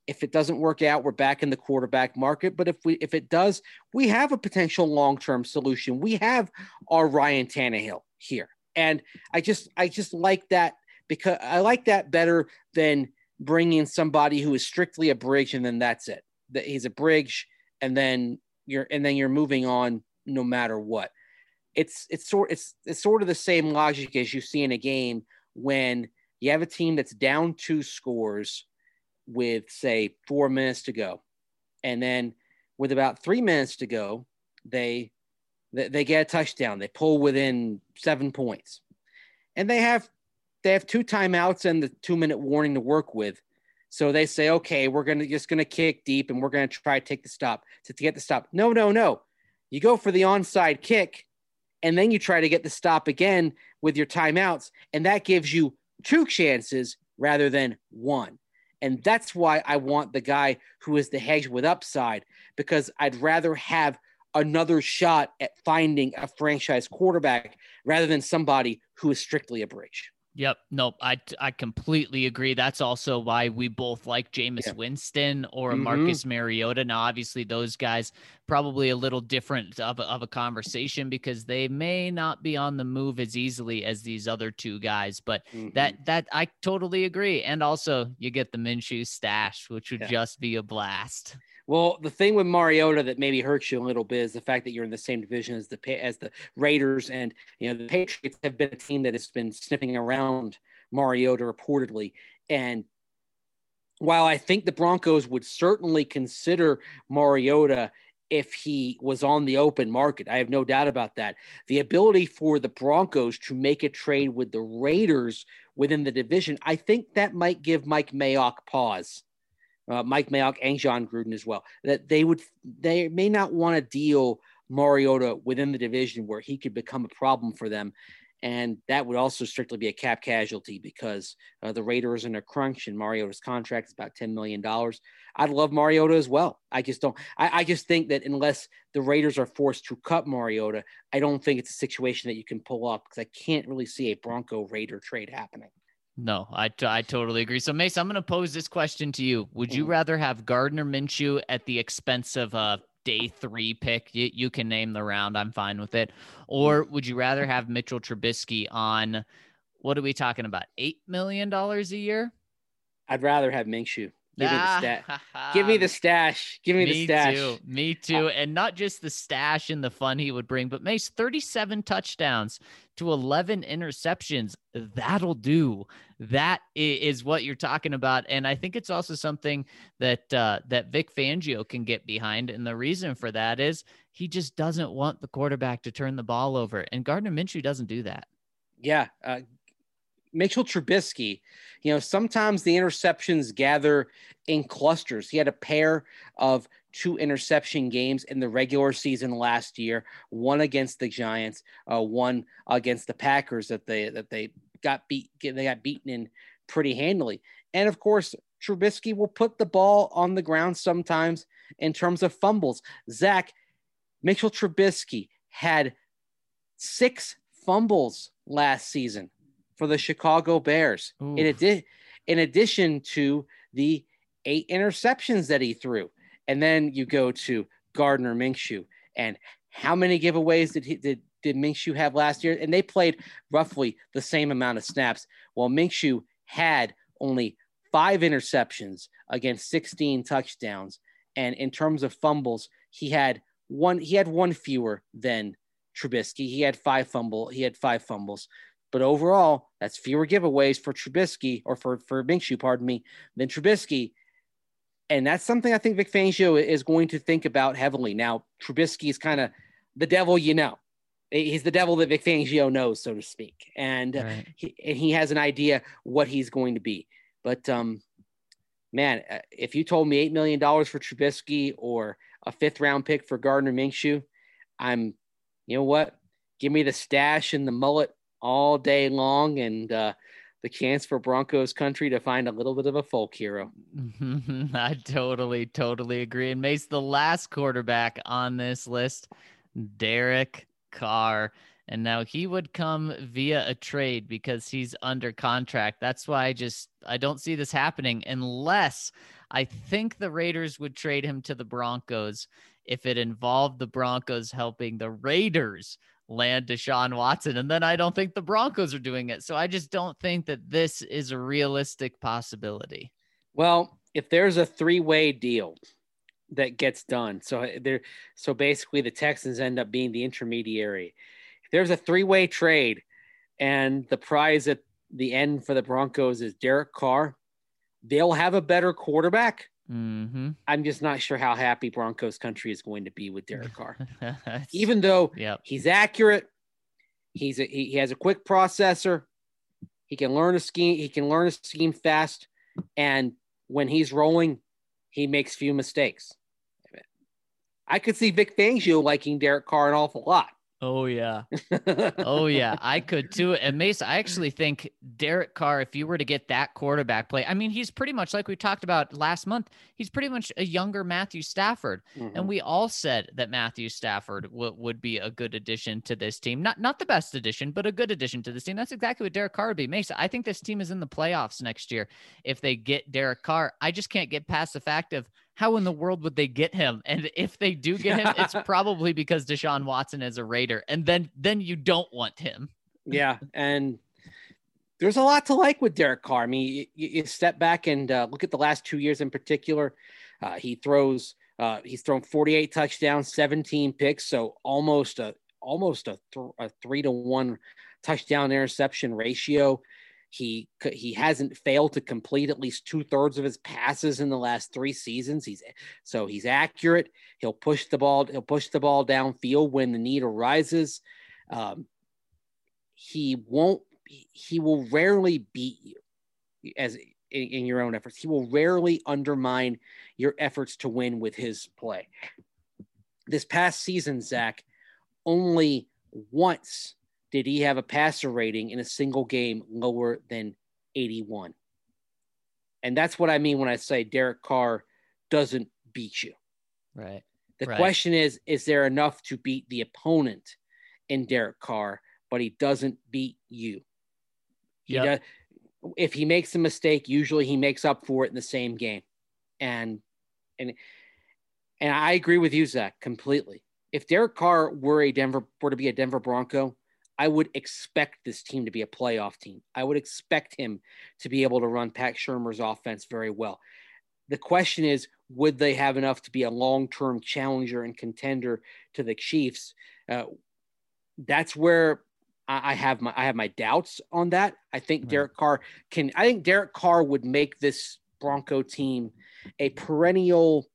If it doesn't work out, we're back in the quarterback market. But if we if it does, we have a potential long-term solution. We have our Ryan Tannehill here. And I just I just like that because I like that better than bringing somebody who is strictly a bridge and then that's it. That he's a bridge and then you're and then you're moving on no matter what. It's it's sort it's it's sort of the same logic as you see in a game when you have a team that's down two scores with, say, four minutes to go. And then with about three minutes to go, they, they, they get a touchdown. They pull within seven points. And they have, they have two timeouts and the two minute warning to work with. So they say, okay, we're going to just going to kick deep and we're going to try to take the stop to, to get the stop. No, no, no. You go for the onside kick and then you try to get the stop again with your timeouts. And that gives you two chances rather than one. And that's why I want the guy who is the hedge with upside, because I'd rather have another shot at finding a franchise quarterback rather than somebody who is strictly a bridge. Yep. Nope. I, I completely agree. That's also why we both like Jameis yeah. Winston or mm-hmm. Marcus Mariota. Now, obviously those guys probably a little different of a, of a conversation because they may not be on the move as easily as these other two guys, but mm-hmm. that, that I totally agree. And also you get the Minshew stash, which would yeah. just be a blast. Well, the thing with Mariota that maybe hurts you a little bit is the fact that you're in the same division as the as the Raiders, and you know the Patriots have been a team that has been sniffing around Mariota reportedly. And while I think the Broncos would certainly consider Mariota if he was on the open market, I have no doubt about that. The ability for the Broncos to make a trade with the Raiders within the division, I think that might give Mike Mayock pause. Uh, Mike Mayock and John Gruden as well, that they would, they may not want to deal Mariota within the division where he could become a problem for them. And that would also strictly be a cap casualty because uh, the Raiders are in a crunch and Mariota's contract is about ten million dollars. I'd love Mariota as well. I just don't, I, I just think that unless the Raiders are forced to cut Mariota, I don't think it's a situation that you can pull off because I can't really see a Bronco Raider trade happening. No, I, t- I totally agree. So, Mace, I'm going to pose this question to you. Would you rather have Gardner Minshew at the expense of a day three pick? You, you can name the round. I'm fine with it. Or would you rather have Mitchell Trubisky on, what are we talking about, eight million dollars a year? I'd rather have Minshew. Give me the stash. Give me the stash. Give me, me the stash. Too. Me too. And not just the stash and the fun he would bring, but Mace, thirty-seven touchdowns to eleven interceptions. That'll do. That is what you're talking about. And I think it's also something that uh, that Vic Fangio can get behind. And the reason for that is he just doesn't want the quarterback to turn the ball over. And Gardner Minshew doesn't do that. Yeah. Uh, Mitchell Trubisky, you know, sometimes the interceptions gather in clusters. He had a pair of two interception games in the regular season last year, one against the Giants, uh, one against the Packers that they that they got beat they got beaten in pretty handily. And of course, Trubisky will put the ball on the ground sometimes in terms of fumbles. Zach, Mitchell Trubisky had six fumbles last season for the Chicago Bears, in, adi- in addition to the eight interceptions that he threw. And then you go to Gardner Minshew. And how many giveaways did he, did, did Minshew have last year? And they played roughly the same amount of snaps. Well, Minshew had only five interceptions against sixteen touchdowns. And in terms of fumbles, he had one, he had one fewer than Trubisky. He had five fumble, he had five fumbles. But overall, that's fewer giveaways for Trubisky or for, for Minshew, pardon me, than Trubisky. And that's something I think Vic Fangio is going to think about heavily. Now, Trubisky is kind of the devil, you know. He's the devil that Vic Fangio knows, so to speak. And, right. uh, he, and he has an idea what he's going to be. But, um, man, if you told me eight million dollars for Trubisky or a fifth-round pick for Gardner Minshew, I'm, you know what? Give me the stash and the mullet all day long, and uh, the chance for Broncos country to find a little bit of a folk hero. I totally, totally agree. And Mace, the last quarterback on this list, Derek Carr. And now he would come via a trade because he's under contract. That's why I just, I don't see this happening unless I think the Raiders would trade him to the Broncos if it involved the Broncos helping the Raiders land Deshaun Watson. And then I don't think the Broncos are doing it. So I just don't think that this is a realistic possibility. Well, if there's a three-way deal that gets done, so there, so basically the Texans end up being the intermediary. If there's a three-way trade and the prize at the end for the Broncos is Derek Carr, they'll have a better quarterback. Mm-hmm. I'm just not sure how happy Broncos country is going to be with Derek Carr. Even though yep. he's accurate, he's a, he, he has a quick processor, he can learn a scheme, he can learn a scheme fast, and when he's rolling, he makes few mistakes. I could see Vic Fangio liking Derek Carr an awful lot. Oh, yeah. Oh, yeah. I could too. And Mace, I actually think Derek Carr, if you were to get that quarterback play, I mean, he's pretty much like we talked about last month. He's pretty much a younger Matthew Stafford. Mm-hmm. And we all said that Matthew Stafford w- would be a good addition to this team. Not not the best addition, but a good addition to this team. That's exactly what Derek Carr would be. Mace, I think this team is in the playoffs next year if they get Derek Carr. I just can't get past the fact of how in the world would they get him? And if they do get him, it's probably because Deshaun Watson is a Raider. And then then you don't want him. Yeah, and there's a lot to like with Derek Carr. I mean, you, you step back and uh, look at the last two years in particular. Uh, he throws, uh, he's thrown forty-eight touchdowns, seventeen picks, so almost a almost a, th- a three to one touchdown interception ratio. He he hasn't failed to complete at least two thirds of his passes in the last three seasons. He's so he's accurate. He'll push the ball. He'll push the ball downfield when the need arises. Um, he won't. He will rarely beat you as in, in your own efforts. He will rarely undermine your efforts to win with his play. This past season, Zach, only once did he have a passer rating in a single game lower than eighty-one. And that's what I mean when I say Derek Carr doesn't beat you. Right. The right. question is, is there enough to beat the opponent in Derek Carr, but he doesn't beat you? He yep. does, if he makes a mistake, usually he makes up for it in the same game. And, and, and I agree with you, Zach, completely. If Derek Carr were a Denver, were to be a Denver Bronco, I would expect this team to be a playoff team. I would expect him to be able to run Pat Shurmur's offense very well. The question is, would they have enough to be a long-term challenger and contender to the Chiefs? Uh, that's where I, I have my I have my doubts on that. I think right. Derek Carr can. I think Derek Carr would make this Bronco team a perennial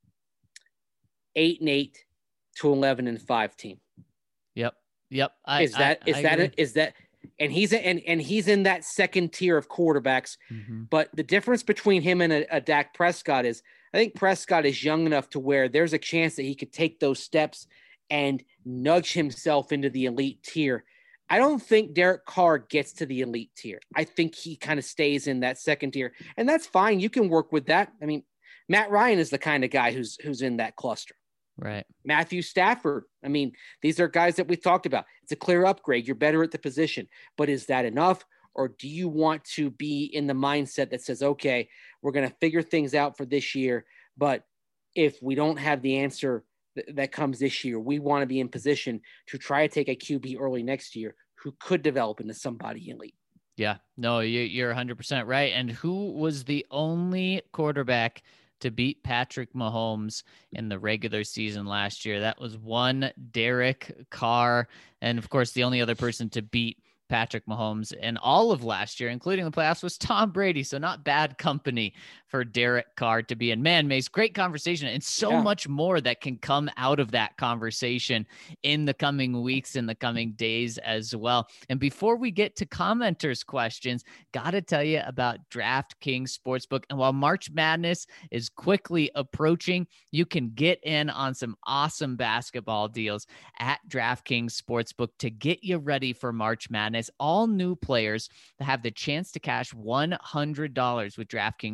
eight and eight to eleven and five team. Yep. Yep. I, is that I, is I that agree. is that and he's a, and and he's in that second tier of quarterbacks. Mm-hmm. But the difference between him and a, a Dak Prescott is I think Prescott is young enough to where there's a chance that he could take those steps and nudge himself into the elite tier. I don't think Derek Carr gets to the elite tier. I think he kind of stays in that second tier, and that's fine. You can work with that. I mean, Matt Ryan is the kind of guy who's who's in that cluster. Right. Matthew Stafford. I mean, these are guys that we talked about. It's a clear upgrade. You're better at the position, but is that enough? Or do you want to be in the mindset that says, okay, we're going to figure things out for this year, but if we don't have the answer th- that comes this year, we want to be in position to try to take a Q B early next year who could develop into somebody elite. Yeah, no, you, you're one hundred percent right. And who was the only quarterback to beat Patrick Mahomes in the regular season last year? That was one Derek Carr. And of course, the only other person to beat Patrick Mahomes in all of last year, including the playoffs, was Tom Brady. So not bad company for Derek Carr to be in. Man, Mace, great conversation, and so yeah. much more that can come out of that conversation in the coming weeks, in the coming days as well. And before we get to commenters' questions, got to tell you about DraftKings Sportsbook. And while March Madness is quickly approaching, you can get in on some awesome basketball deals at DraftKings Sportsbook to get you ready for March Madness. All new players have the chance to cash one hundred dollars with DraftKings Sportsbook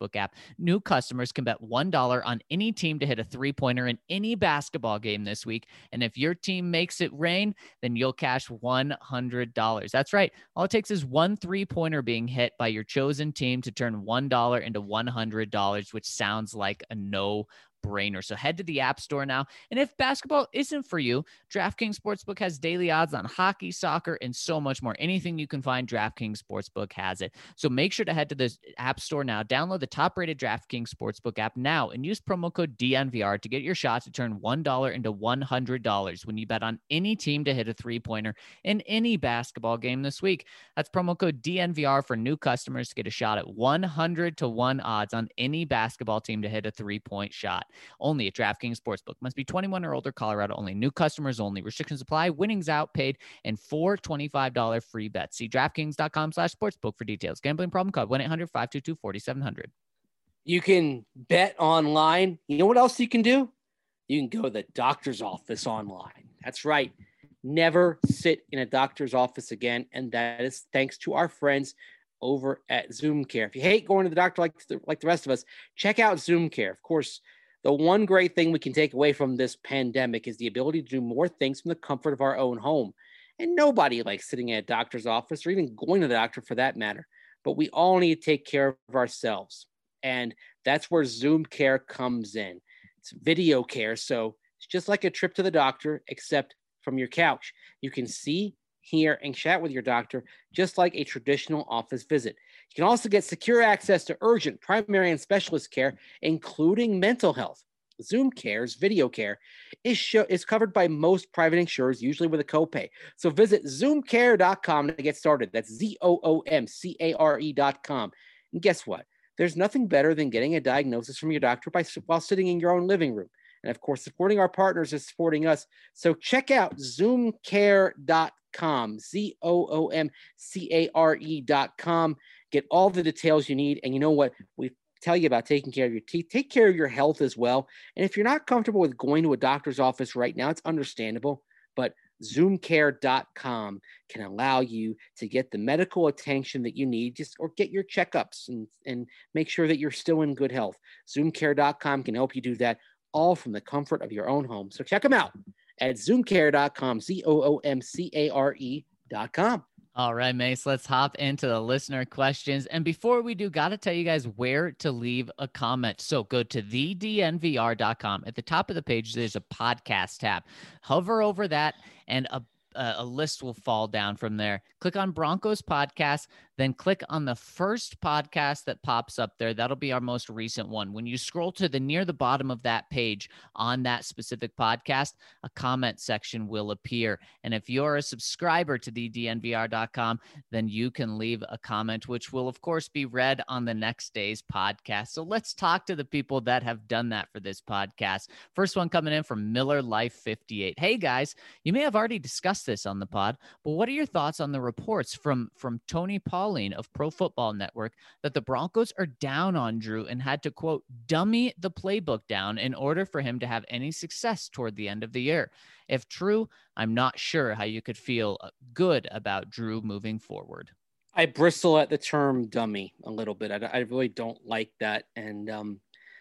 Sportsbook app. New customers can bet one dollar on any team to hit a three-pointer in any basketball game this week. And if your team makes it rain, then you'll cash one hundred dollars. That's right. All it takes is one three-pointer being hit by your chosen team to turn one dollar into one hundred dollars, which sounds like a no brainer. So head to the App Store now. And if basketball isn't for you, DraftKings Sportsbook has daily odds on hockey, soccer, and so much more. Anything you can find, DraftKings Sportsbook has it. So make sure to head to the App Store now. Download the top-rated DraftKings Sportsbook app now and use promo code D N V R to get your shot to turn one dollar into one hundred dollars when you bet on any team to hit a three-pointer in any basketball game this week. That's promo code D N V R for new customers to get a shot at one hundred to one odds on any basketball team to hit a three-point shot. Only at DraftKings Sportsbook. Must be twenty-one or older, Colorado only. New customers only. Restrictions apply. Winnings outpaid and four twenty-five dollars free bets. See DraftKings.com slash sportsbook for details. Gambling problem? Call one eight hundred five two two four seven zero zero. You can bet online. You know what else you can do? You can go to the doctor's office online. That's right. Never sit in a doctor's office again. And that is thanks to our friends over at Zoom Care. If you hate going to the doctor like the, like the rest of us, check out Zoom Care. Of course, the one great thing we can take away from this pandemic is the ability to do more things from the comfort of our own home. And nobody likes sitting in a doctor's office or even going to the doctor for that matter. But we all need to take care of ourselves. And that's where Zoom Care comes in. It's video care. So it's just like a trip to the doctor, except from your couch. You can see, hear, and chat with your doctor, just like a traditional office visit. You can also get secure access to urgent, primary, and specialist care, including mental health. Zoom Care's video care is, show, is covered by most private insurers, usually with a copay. So visit zoom care dot com to get started. That's Z O O M C A R E dot com. And guess what? There's nothing better than getting a diagnosis from your doctor by, while sitting in your own living room. And of course, supporting our partners is supporting us. So check out zoom care dot com, Z O O M C A R E dot com. Get all the details you need. And you know what? We tell you about taking care of your teeth. Take care of your health as well. And if you're not comfortable with going to a doctor's office right now, it's understandable. But zoom care dot com can allow you to get the medical attention that you need, just or get your checkups and, and make sure that you're still in good health. zoom care dot com can help you do that, all from the comfort of your own home. So check them out at zoom care dot com, Z O O M C A R E dot com. All right, Mace, let's hop into the listener questions. And before we do, got to tell you guys where to leave a comment. So go to the D N V R dot com. At the top of the page, there's a podcast tab. Hover over that, and a, a list will fall down from there. Click on Broncos Podcast, then click on the first podcast that pops up there. That'll be our most recent one. When you scroll to the near the bottom of that page on that specific podcast, a comment section will appear. And if you're a subscriber to the D N V R dot com, then you can leave a comment, which will, of course, be read on the next day's podcast. So let's talk to the people that have done that for this podcast. First one coming in from Miller Life fifty-eight. Hey, guys, you may have already discussed this on the pod, but what are your thoughts on the reports from, from Tony Pauline of Pro Football Network that the Broncos are down on Drew and had to, quote, dummy the playbook down in order for him to have any success toward the end of the year? If true, I'm not sure how you could feel good about Drew moving forward. I bristle at the term dummy a little bit. I, I really don't like that. And um,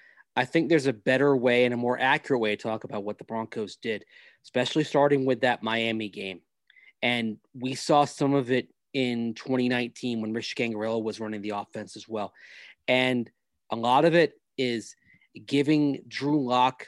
I think there's a better way and a more accurate way to talk about what the Broncos did, especially starting with that Miami game. And we saw some of it in twenty nineteen when Rich Gangarello was running the offense as well. And a lot of it is giving Drew Lock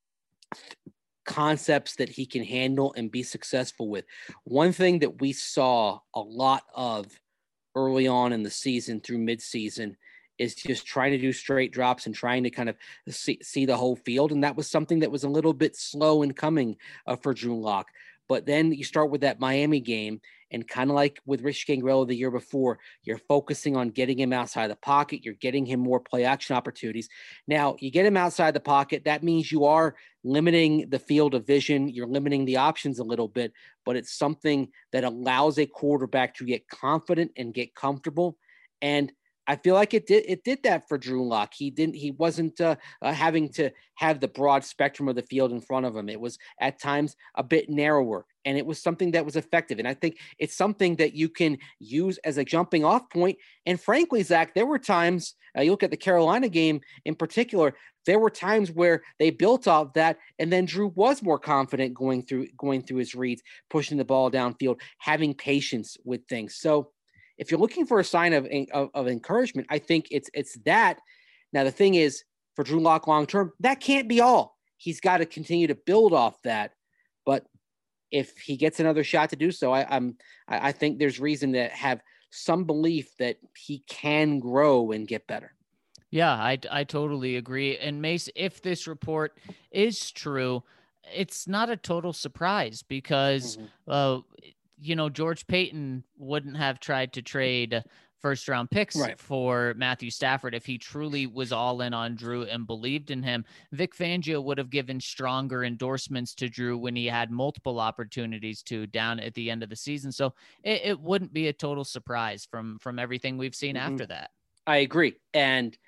concepts that he can handle and be successful with. One thing that we saw a lot of early on in the season through midseason is just trying to do straight drops and trying to kind of see, see the whole field. And that was something that was a little bit slow in coming uh, for Drew Lock. But then you start with that Miami game, and kind of like with Rich Gangarello the year before, you're focusing on getting him outside the pocket. You're getting him more play action opportunities. Now, you get him outside the pocket. That means you are limiting the field of vision. You're limiting the options a little bit, but it's something that allows a quarterback to get confident and get comfortable. And I feel like it did it did that for Drew Lock. He didn't he wasn't uh, uh, having to have the broad spectrum of the field in front of him. It was at times a bit narrower, and it was something that was effective. And I think it's something that you can use as a jumping off point. And frankly, Zach, there were times uh, you look at the Carolina game in particular. There were times where they built off that, and then Drew was more confident going through going through his reads, pushing the ball downfield, having patience with things. So if you're looking for a sign of, of, of encouragement, I think it's it's that. Now, the thing is, for Drew Lock long term, that can't be all. He's got to continue to build off that. But if he gets another shot to do so, I, I'm I, I think there's reason to have some belief that he can grow and get better. Yeah, I, I totally agree. And Mace, if this report is true, it's not a total surprise because, mm-hmm. uh, you know, George Paton wouldn't have tried to trade first round picks right. for Matthew Stafford if he truly was all in on Drew and believed in him. Vic Fangio would have given stronger endorsements to Drew when he had multiple opportunities to down at the end of the season. So it, it wouldn't be a total surprise from, from everything we've seen mm-hmm. after that. I agree. And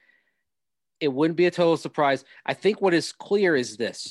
it wouldn't be a total surprise. I think what is clear is this.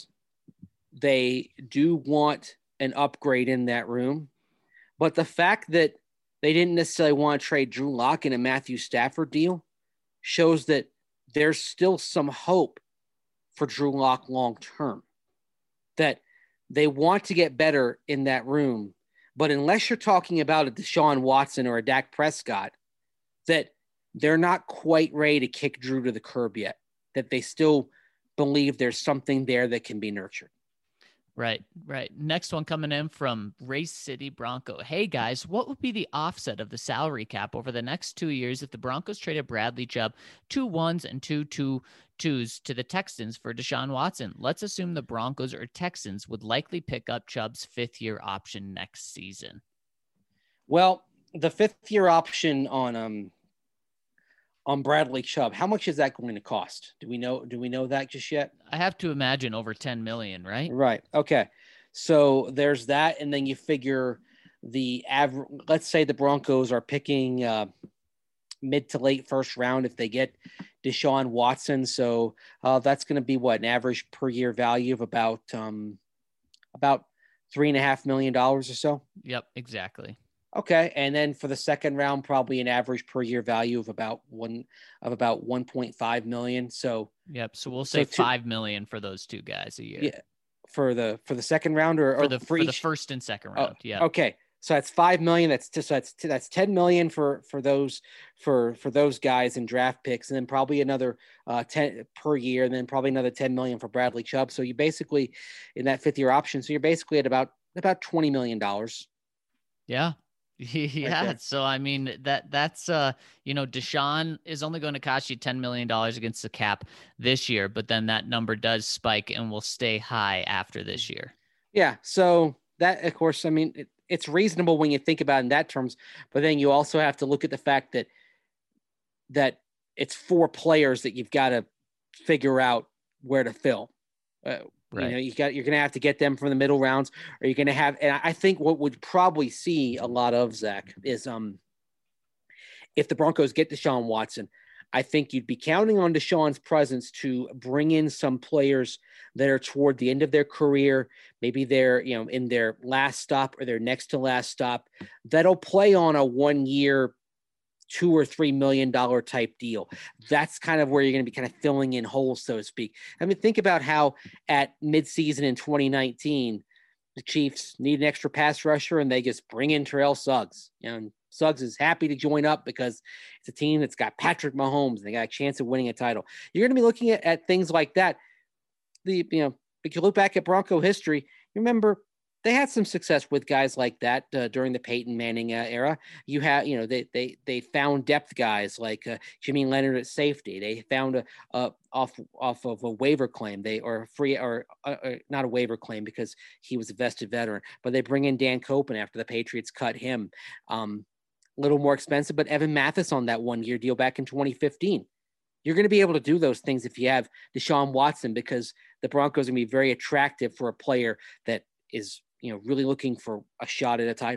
They do want an upgrade in that room. But the fact that they didn't necessarily want to trade Drew Lock in a Matthew Stafford deal shows that there's still some hope for Drew Lock long term. That they want to get better in that room. But unless you're talking about a Deshaun Watson or a Dak Prescott, that they're not quite ready to kick Drew to the curb yet. That they still believe there's something there that can be nurtured. Right, right. Next one coming in from Race City Bronco. Hey, guys, what would be the offset of the salary cap over the next two years if the Broncos traded Bradley Chubb, two ones and two two twos to the Texans for Deshaun Watson? Let's assume the Broncos or Texans would likely pick up Chubb's fifth-year option next season. Well, the fifth-year option on um on Bradley Chubb, how much is that going to cost? Do we know? Do we know that just yet? I have to imagine over ten million, right? Right. Okay. So there's that. And then you figure the average, let's say the Broncos are picking uh, mid to late first round if they get Deshaun Watson. So uh, that's going to be what, an average per year value of about, um, about three and a half million dollars or so. Yep, exactly. Okay, and then for the second round, probably an average per year value of about one of about one point five million. So yep, so we'll say so two, five million for those two guys a year. Yeah, for the for the second round or, for or the for, for each? the first and second round. Oh, yeah. Okay, so that's five million. That's so that's that's ten million for for those for for those guys in draft picks, and then probably another uh, ten per year, and then probably another ten million for Bradley Chubb. So you basically in that fifth year option. So you're basically at about about twenty million dollars. Yeah. Yeah. Right, so, I mean, that that's, uh, you know, Deshaun is only going to cost you ten million dollars against the cap this year, but then that number does spike and will stay high after this year. Yeah. So that, of course, I mean, it, it's reasonable when you think about it in that terms, but then you also have to look at the fact that, that it's four players that you've got to figure out where to fill. Uh, Right. You know, you got, you're going to have to get them from the middle rounds, or you're going to have, and I think what would probably see a lot of, Zach, is um, if the Broncos get Deshaun Watson, I think you'd be counting on Deshaun's presence to bring in some players that are toward the end of their career. Maybe they're, you know, in their last stop or their next to last stop, that'll play on a one year, two or three million dollar type deal. That's kind of where you're going to be kind of filling in holes, so to speak. I mean, think about how at midseason in twenty nineteen, the Chiefs need an extra pass rusher and they just bring in Terrell Suggs. You know, and Suggs is happy to join up because it's a team that's got Patrick Mahomes and they got a chance of winning a title. You're going to be looking at, at things like that. The, you know, if you look back at Bronco history, remember they had some success with guys like that uh, during the Peyton Manning uh, era. You have, you know, they they they found depth guys like uh, Jimmy Leonard at safety. They found a, a off off of a waiver claim. They or free or uh, uh, not a waiver claim because he was a vested veteran. But they bring in Dan Copen after the Patriots cut him. Um, a little more expensive, but Evan Mathis on that one year deal back in twenty fifteen. You're going to be able to do those things if you have Deshaun Watson because the Broncos are going to be very attractive for a player that is, you know, really looking for a shot at a title.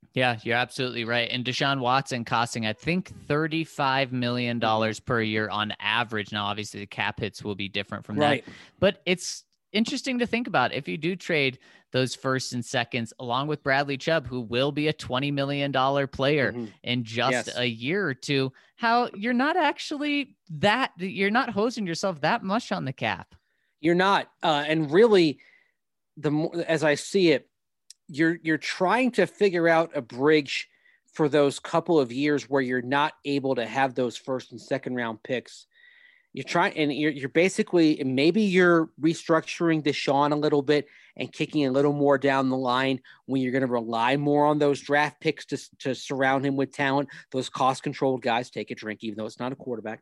Yeah, you're absolutely right. And Deshaun Watson costing, I think, thirty-five million dollars per year on average. Now, obviously, the cap hits will be different from Right. that. But it's interesting to think about if you do trade those first and seconds along with Bradley Chubb, who will be a twenty million dollars player Mhm. in just Yes. a year or two, how you're not actually that, you're not hosing yourself that much on the cap. You're not. Uh, and really, the more, as I see it, you're you're trying to figure out a bridge for those couple of years where you're not able to have those first and second round picks. You're trying, and you're, you're basically, maybe you're restructuring Deshaun a little bit and kicking a little more down the line when you're going to rely more on those draft picks to, to surround him with talent. Those cost controlled guys. Take a drink, even though it's not a quarterback.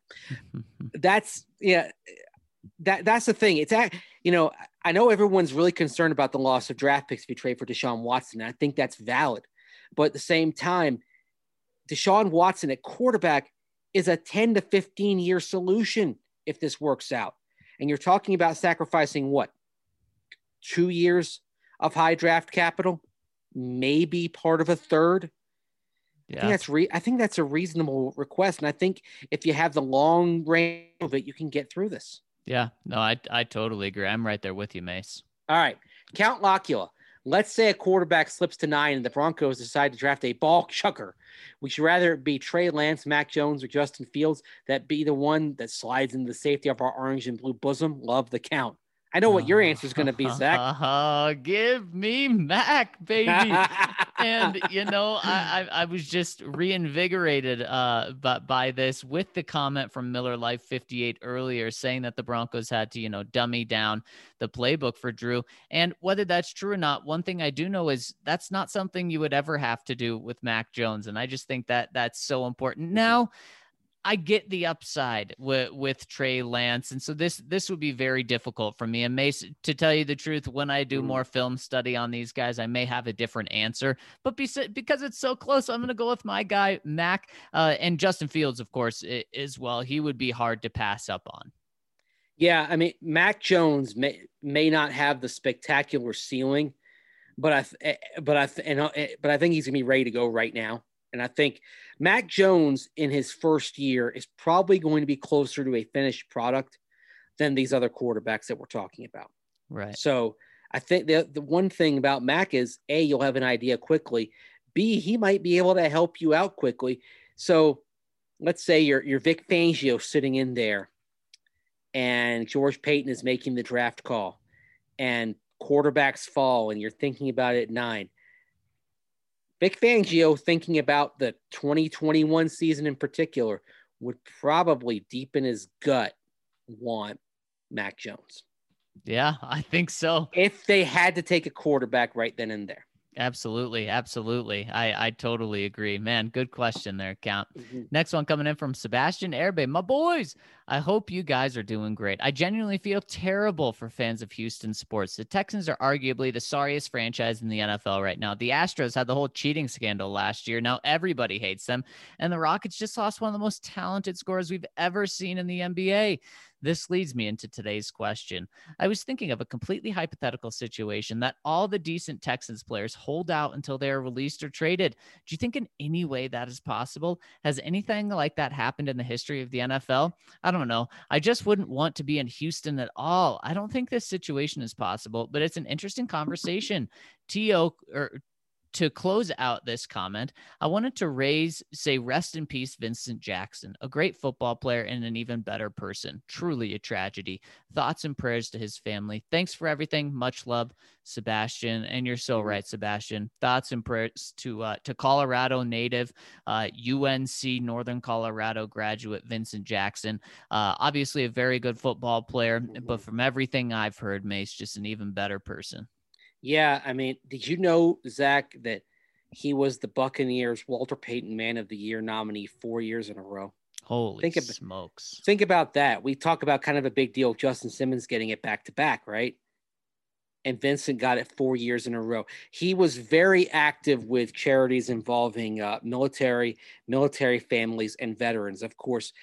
That's yeah. That that's the thing. It's at, you know, I know everyone's really concerned about the loss of draft picks if you trade for Deshaun Watson. And I think that's valid, but at the same time, Deshaun Watson at quarterback is a ten to fifteen year solution if this works out. And you're talking about sacrificing what? Two years of high draft capital, maybe part of a third. Yeah. I think that's re- I think that's a reasonable request. And I think if you have the long range of it, you can get through this. Yeah, no, I I totally agree. I'm right there with you, Mace. All right. Count Locula. Let's say a quarterback slips to nine and the Broncos decide to draft a ball chucker. Would you rather it be Trey Lance, Mac Jones, or Justin Fields? That be the one that slides into the safety of our orange and blue bosom? Love the count. I know what your answer is going to be, Zach. Uh, give me Mac, baby. And, you know, I, I, I was just reinvigorated uh, by, by this with the comment from Miller Life fifty-eight earlier saying that the Broncos had to, you know, dummy down the playbook for Drew. And whether that's true or not, one thing I do know is that's not something you would ever have to do with Mac Jones. And I just think that that's so important. Now, I get the upside with, with Trey Lance. And so this, this would be very difficult for me. And Mace, to tell you the truth, when I do more film study on these guys, I may have a different answer, but be, because it's so close, I'm going to go with my guy, Mac, uh, and Justin Fields, of course, as well. He would be hard to pass up on. Yeah. I mean, Mac Jones may, may not have the spectacular ceiling, but I, but I, and, but I think he's gonna be ready to go right now. And I think Mac Jones in his first year is probably going to be closer to a finished product than these other quarterbacks that we're talking about. Right. So I think the, the one thing about Mac is A, you'll have an idea quickly. B, he might be able to help you out quickly. So let's say you're, you're Vic Fangio sitting in there and George Payton is making the draft call and quarterbacks fall and you're thinking about it at nine. Vic Fangio, thinking about the twenty twenty-one season in particular, would probably deep in his gut want Mac Jones. Yeah, I think so. If they had to take a quarterback right then and there. Absolutely. Absolutely. I, I totally agree, man. Good question there, Count. Mm-hmm. Next one coming in from Sebastian Erbe. My boys, I hope you guys are doing great. I genuinely feel terrible for fans of Houston sports. The Texans are arguably the sorriest franchise in the N F L right now. The Astros had the whole cheating scandal last year. Now everybody hates them. And the Rockets just lost one of the most talented scorers we've ever seen in the N B A. This leads me into today's question. I was thinking of a completely hypothetical situation that all the decent Texans players hold out until they are released or traded. Do you think in any way that is possible? Has anything like that happened in the history of the N F L? I don't know. I just wouldn't want to be in Houston at all. I don't think this situation is possible, but it's an interesting conversation. T O or To close out this comment, I wanted to raise, say, rest in peace, Vincent Jackson, a great football player and an even better person. Truly a tragedy. Thoughts and prayers to his family. Thanks for everything. Much love, Sebastian. And you're so right, Sebastian. Thoughts and prayers to uh, to Colorado native, uh, U N C Northern Colorado graduate Vincent Jackson. Uh, obviously a very good football player, but from everything I've heard, Mace, just an even better person. Yeah, I mean, did you know, Zach, that he was the Buccaneers Walter Payton Man of the Year nominee four years in a row? Holy think smokes. About, think about that. We talk about kind of a big deal of Justin Simmons getting it back to back, right? And Vincent got it four years in a row. He was very active with charities involving uh, military, military families and veterans. Of course,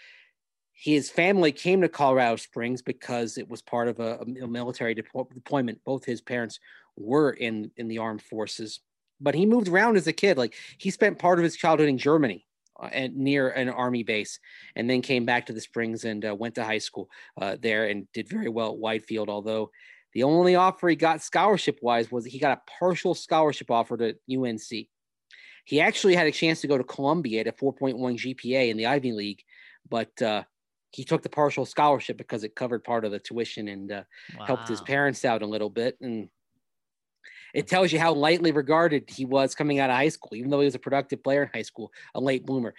his family came to Colorado Springs because it was part of a, a military deploy- deployment. Both his parents were in, in the armed forces. but he moved around as a kid. Like he spent part of his childhood in Germany uh, and near an army base, and then came back to the Springs and uh, went to high school uh, there and did very well at Whitefield. Although the only offer he got scholarship wise was he got a partial scholarship offer to U N C. He actually had a chance to go to Columbia at a four point one G P A in the Ivy League, but uh, he took the partial scholarship because it covered part of the tuition and uh, wow. helped his parents out a little bit. And it tells you how lightly regarded he was coming out of high school, even though he was a productive player in high school, a late bloomer.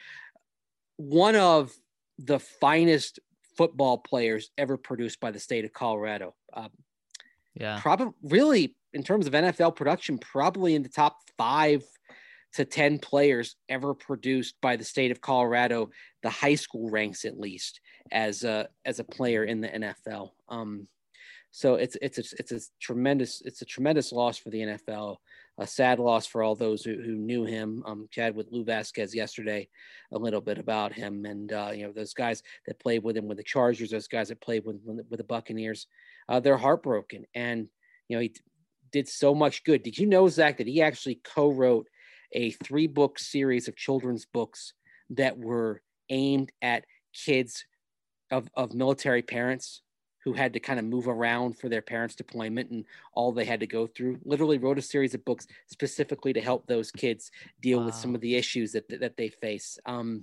One of the finest football players ever produced by the state of Colorado. Um, yeah, probably really in terms of N F L production, probably in the top five to ten players ever produced by the state of Colorado, the high school ranks at least as a, as a player in the N F L. Um, so it's, it's, a, it's a tremendous, it's a tremendous loss for the N F L, a sad loss for all those who, who knew him. Um, chatted with Lou Vasquez yesterday a little bit about him, and uh, you know, those guys that played with him with the Chargers, those guys that played with, with the Buccaneers, uh, they're heartbroken. And, you know, he did so much good. Did you know, Zach, that he actually co-wrote a three book series of children's books that were aimed at kids of, of military parents who had to kind of move around for their parents' deployment and all they had to go through? Literally wrote a series of books specifically to help those kids deal wow. with some of the issues that, that they face. Um,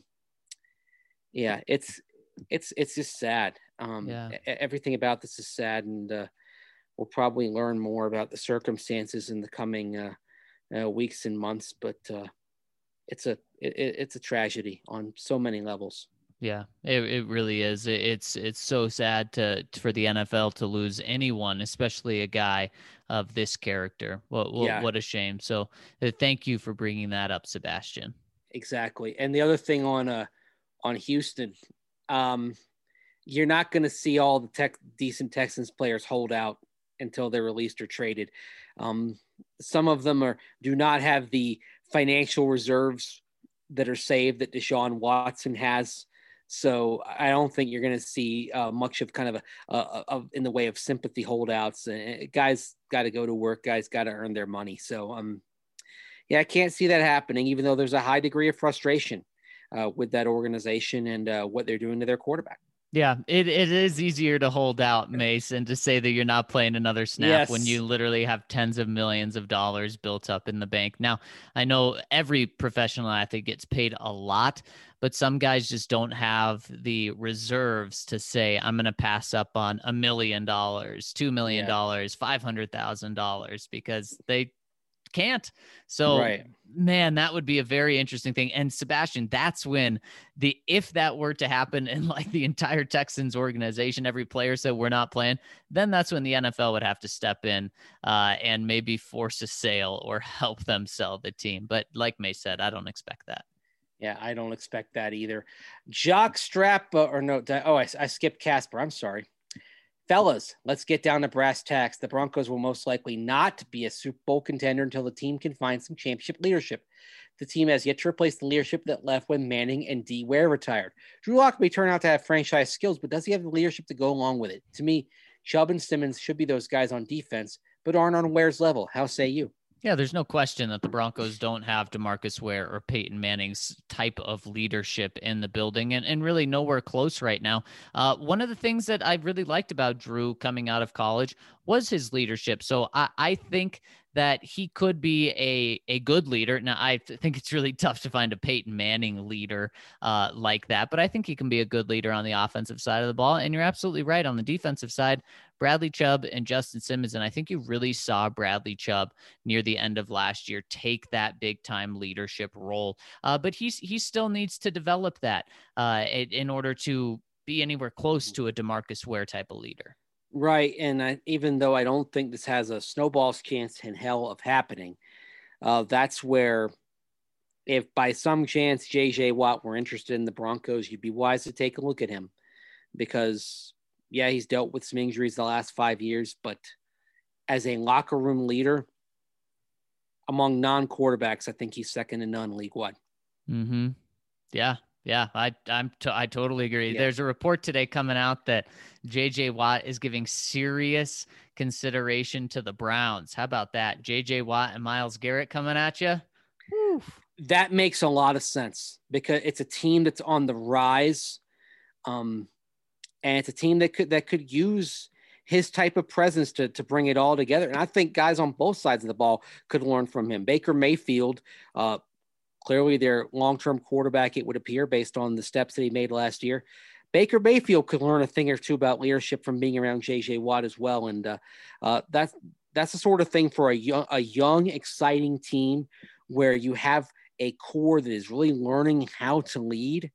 yeah, it's, it's, it's just sad. Um, yeah. Everything about this is sad. And uh, we'll probably learn more about the circumstances in the coming uh, Uh, weeks and months, but uh, it's a it, it's a tragedy on so many levels. Yeah, it it really is. It, it's it's so sad to for the N F L to lose anyone, especially a guy of this character. What what, yeah. what a shame. So uh, thank you for bringing that up, Sebastian. Exactly. And the other thing on uh on Houston, um, you're not going to see all the tech decent Texans players hold out until they're released or traded. Um, some of them are do not have the financial reserves that are saved that Deshaun Watson has. So I don't think you're going to see uh, much of kind of a, a, a in the way of sympathy holdouts. And guys got to go to work. Guys got to earn their money. So um, yeah, I can't see that happening, even though there's a high degree of frustration uh, with that organization and uh, what they're doing to their quarterback. Yeah, it, it is easier to hold out, Mace, and to say that you're not playing another snap yes. when you literally have tens of millions of dollars built up in the bank. Now, I know every professional athlete gets paid a lot, but some guys just don't have the reserves to say, I'm going to pass up on a million dollars, two million dollars, yeah. five hundred thousand dollars because they can't. So right. man, that would be a very interesting thing. And Sebastian, that's when the, if that were to happen in like the entire Texans organization, every player said we're not playing, then that's when the N F L would have to step in uh, and maybe force a sale or help them sell the team. But like May said, I don't expect that. Yeah, I don't expect that either. Jock Strap, uh, or no, oh, I, I skipped Casper. I'm sorry. Fellas, let's get down to brass tacks. The Broncos will most likely not be a Super Bowl contender until the team can find some championship leadership. The team has yet to replace the leadership that left when Manning and D. Ware retired. Drew Lock may turn out to have franchise skills, but does he have the leadership to go along with it? To me, Chubb and Simmons should be those guys on defense, but aren't on Ware's level. How say you? Yeah, there's no question that the Broncos don't have DeMarcus Ware or Peyton Manning's type of leadership in the building, and, and really nowhere close right now. Uh, one of the things that I really liked about Drew coming out of college was his leadership. So I, I think that he could be a, a good leader. Now, I think it's really tough to find a Peyton Manning leader uh, like that, but I think he can be a good leader on the offensive side of the ball. And you're absolutely right. On the defensive side, Bradley Chubb and Justin Simmons, and I think you really saw Bradley Chubb near the end of last year take that big-time leadership role. Uh, but he's he still needs to develop that uh, in, in order to be anywhere close to a DeMarcus Ware type of leader. Right, and I, even though I don't think this has a snowball's chance in hell of happening, uh, that's where if by some chance J J Watt were interested in the Broncos, you'd be wise to take a look at him because, yeah, he's dealt with some injuries the last five years, but as a locker room leader among non-quarterbacks, I think he's second to none league-wide. Mm-hmm. Yeah. Yeah, I I'm t- I totally agree. Yeah. There's a report today coming out that J J Watt is giving serious consideration to the Browns. How about that? J J Watt and Myles Garrett coming at you. That makes a lot of sense because it's a team that's on the rise. Um, and it's a team that could that could use his type of presence to, to bring it all together. And I think guys on both sides of the ball could learn from him. Baker Mayfield, uh, clearly their long-term quarterback, it would appear, based on the steps that he made last year. Baker Mayfield could learn a thing or two about leadership from being around J J Watt as well. And uh, uh, that's, that's the sort of thing for a young, a young, exciting team where you have a core that is really learning how to lead.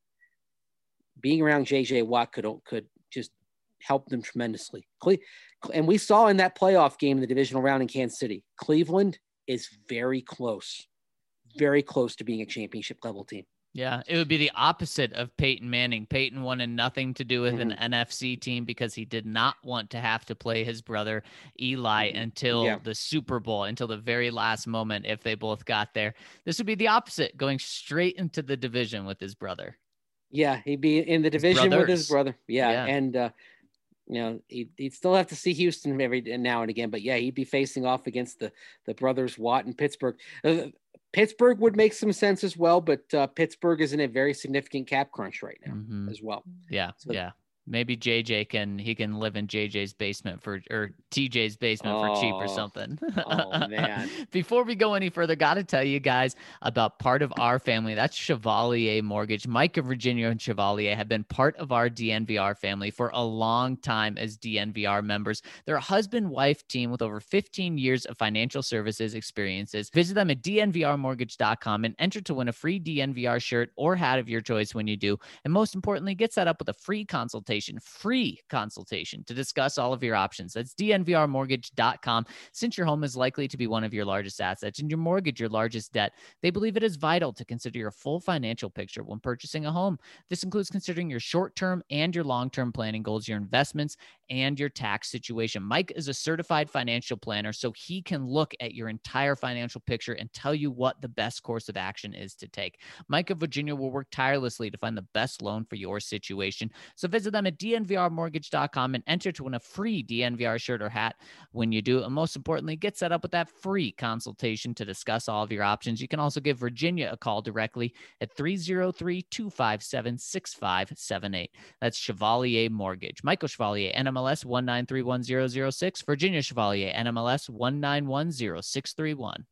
Being around J J Watt could, could just help them tremendously. And we saw in that playoff game in the divisional round in Kansas City, Cleveland is very close, very close to being a championship level team. Yeah, it would be the opposite of Peyton Manning. Peyton wanted nothing to do with Mm-hmm. an N F C team because he did not want to have to play his brother Eli Mm-hmm. until Yeah. the Super Bowl, until the very last moment if they both got there. This would be the opposite, going straight into the division with his brother. Yeah, he'd be in the division with his brothers. brother. Yeah, Yeah. and uh, you know he'd, he'd still have to see Houston every now and again, but yeah, he'd be facing off against the the brothers Watt in Pittsburgh. Uh, Pittsburgh would make some sense as well, but uh, Pittsburgh is in a very significant cap crunch right now Mhm. as well. Yeah, So- yeah. Maybe J J can he can live in J J's basement for or T J's basement for cheap or Oh. something. Oh, man. Before we go any further, got to tell you guys about part of our family. That's Chevalier Mortgage. Mike of Virginia and Chevalier have been part of our D N V R family for a long time as D N V R members. They're a husband-wife team with over fifteen years of financial services experiences. Visit them at D N V R mortgage dot com and enter to win a free D N V R shirt or hat of your choice when you do. And most importantly, get set up with a free consultation. Free consultation to discuss all of your options. That's D N V R mortgage dot com. Since your home is likely to be one of your largest assets and your mortgage your largest debt, they believe it is vital to consider your full financial picture when purchasing a home. This includes considering your short-term and your long-term planning goals, your investments, and your tax situation. Mike is a certified financial planner, so he can look at your entire financial picture and tell you what the best course of action is to take. Mike of Virginia will work tirelessly to find the best loan for your situation. So visit them at D N V R mortgage dot com and enter to win a free D N V R shirt or hat when you do. And most importantly, get set up with that free consultation to discuss all of your options. You can also give Virginia a call directly at three oh three, two five seven, six five seven eight. That's Chevalier Mortgage. Michael Chevalier, N M L S one nine three one zero zero six. Virginia Chevalier, N M L S one nine one zero six three one.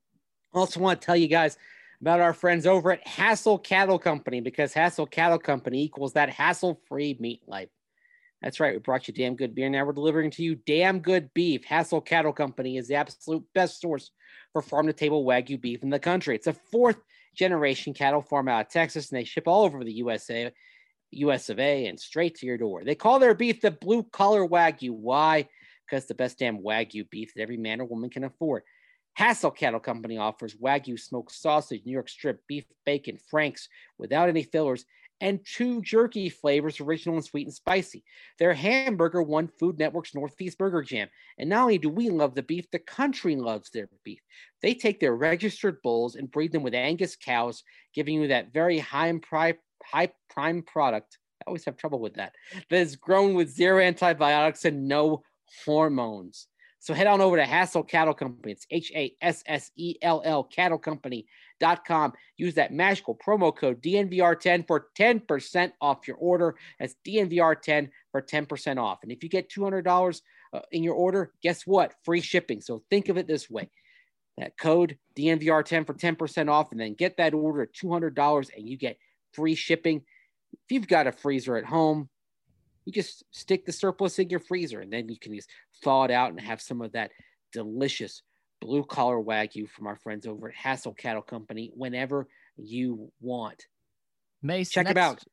Also want to tell you guys about our friends over at Hassel Cattle Company, because Hassel Cattle Company equals that hassle-free meat life. That's right. We brought you damn good beer. Now we're delivering to you damn good beef. Hassel Cattle Company is the absolute best source for farm-to-table Wagyu beef in the country. It's a fourth-generation cattle farm out of Texas, and they ship all over the U S A, U S of A, and straight to your door. They call their beef the blue-collar Wagyu. Why? Because the best damn Wagyu beef that every man or woman can afford. Hassel Cattle Company offers Wagyu smoked sausage, New York strip, beef bacon, Franks without any fillers, and two jerky flavors, original and sweet and spicy. Their hamburger won Food Network's Northeast Burger Jam. And not only do we love the beef, the country loves their beef. They take their registered bulls and breed them with Angus cows, giving you that very high and pri- high prime product. I always have trouble with that. That is grown with zero antibiotics and no hormones. So head on over to Hassel Cattle Company. It's H A S S E L L cattle company dot com. Use that magical promo code D N V R ten for ten percent off your order. That's D N V R ten for ten percent off. And if you get two hundred dollars uh, in your order, guess what? Free shipping. So think of it this way. That code D N V R ten for ten percent off, and then get that order at two hundred dollars and you get free shipping. If you've got a freezer at home, you just stick the surplus in your freezer, and then you can just thaw it out and have some of that delicious blue-collar Wagyu from our friends over at Hassel Cattle Company whenever you want. Mace, Check next, them out.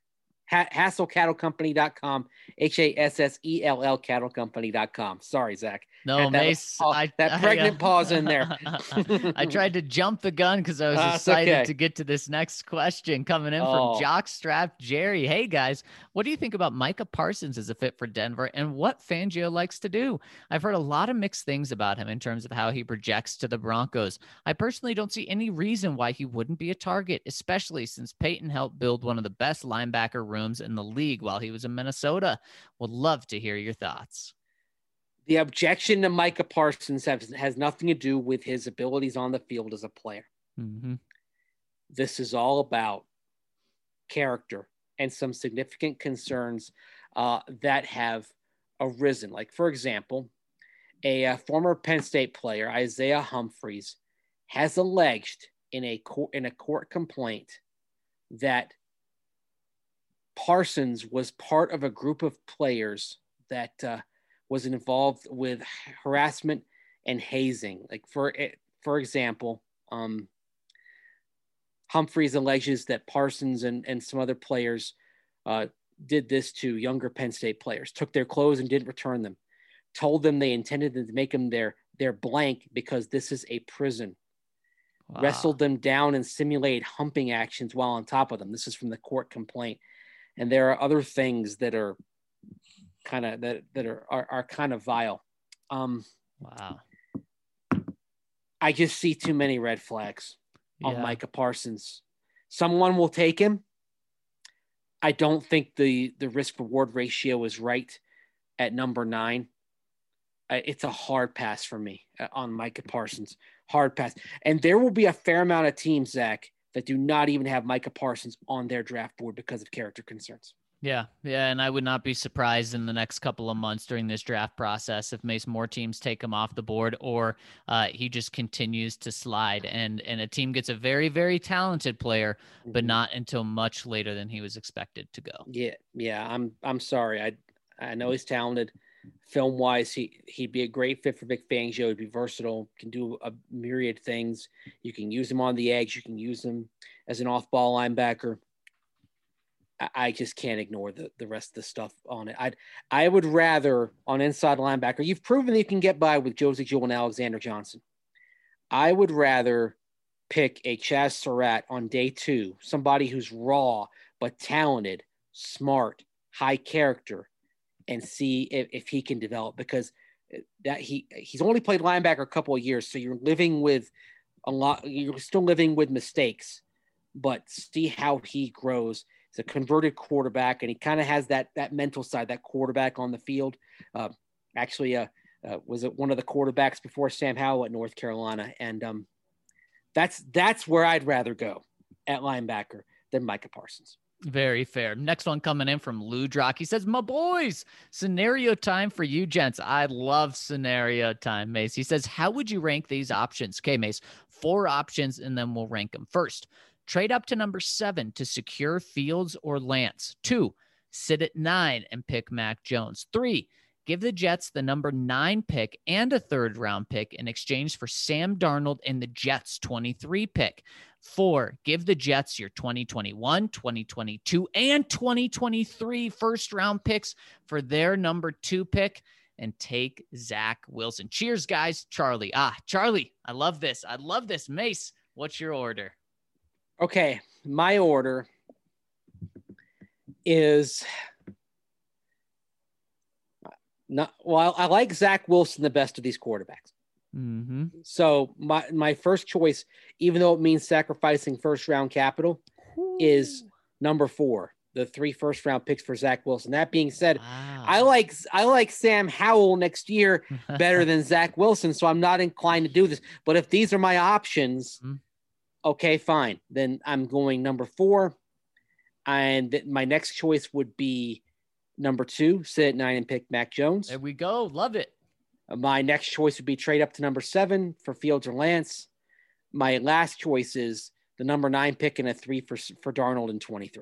Ha- Hassel Cattle Company dot com, H A S S E L L cattle company dot com. Sorry, Zach. No, Had that, Mace, oh, I that I, pregnant uh, pause in there. I tried to jump the gun because I was Uh, it's excited okay. to get to this next question coming in from Oh. Jockstrap Jerry. Hey guys, what do you think about Micah Parsons as a fit for Denver and what Fangio likes to do? I've heard a lot of mixed things about him in terms of how he projects to the Broncos. I personally don't see any reason why he wouldn't be a target, especially since Peyton helped build one of the best linebacker rooms in the league while he was in Minnesota. Would love to hear your thoughts. The objection to Micah Parsons has, has nothing to do with his abilities on the field as a player. Mm-hmm. This is all about character and some significant concerns uh, that have arisen. Like, for example, a, a former Penn State player, Isaiah Humphries, has alleged in a court, in a court complaint that Parsons was part of a group of players that uh, was involved with harassment and hazing. Like, for for example, um, Humphries alleges that Parsons and, and some other players uh, did this to younger Penn State players, took their clothes and didn't return them, told them they intended to make them their, their blank because this is a prison, Wow. wrestled them down and simulated humping actions while on top of them. This is from the court complaint. And there are other things that are kind of that, that are, are, are kind of vile. Um, Wow. I just see too many red flags on Yeah. Micah Parsons. Someone will take him. I don't think the, the risk reward ratio is right at number nine. Uh, it's a hard pass for me uh, on Micah Parsons. Hard pass. And there will be a fair amount of teams, Zach, that do not even have Micah Parsons on their draft board because of character concerns. Yeah, yeah, and I would not be surprised in the next couple of months during this draft process if Mace more teams take him off the board or uh, he just continues to slide and and a team gets a very, very talented player, but Mhm. not until much later than he was expected to go. Yeah, yeah. I'm I'm sorry. I I know he's talented. Film wise, he he'd be a great fit for Vic Fangio. He'd be versatile, can do a myriad things. You can use him on the edge. You can use him as an off-ball linebacker. I, I just can't ignore the, the rest of the stuff on it. I'd I would rather on inside linebacker. You've proven that you can get by with Josie Jewell and Alexander Johnson. I would rather pick a Chaz Surratt on day two, somebody who's raw but talented, smart, high character, and see if, if he can develop, because that he he's only played linebacker a couple of years. So you're living with a lot, you're still living with mistakes, but see how he grows. He's a converted quarterback, and he kind of has that, that mental side, that quarterback on the field. Uh, actually, uh, uh, was it one of the quarterbacks before Sam Howell at North Carolina. And um, that's, that's where I'd rather go at linebacker than Micah Parsons. Very fair. Next one coming in from Lou Drock. He says, my boys, scenario time for you gents. I love scenario time, Mace. He says, how would you rank these options? Okay, Mace, four options, and then we'll rank them. First, trade up to number seven to secure Fields or Lance. Two, sit at nine and pick Mac Jones. Three, give the Jets the number nine pick and a third round pick in exchange for Sam Darnold and the Jets' twenty-three pick. Four, give the Jets your twenty twenty-one, twenty twenty-two, and twenty twenty-three first round picks for their number two pick and take Zach Wilson. Cheers, guys. Charlie. Ah, Charlie, I love this. I love this. Mace, what's your order? Okay, my order is not, well, I like Zach Wilson the best of these quarterbacks. Mm-hmm. So my, my first choice, even though it means sacrificing first round capital, Ooh. is number four, the three first round picks for Zach Wilson. That being said, Wow. I like I like Sam Howell next year better than Zach Wilson, so I'm not inclined to do this. But if these are my options, mm-hmm. okay, fine. Then I'm going number four, and th- my next choice would be number two, sit at nine and pick Mac Jones. There we go. Love it. My next choice would be trade up to number seven for Fields or Lance. My last choice is the number nine pick and a three for, for Darnold in twenty-three.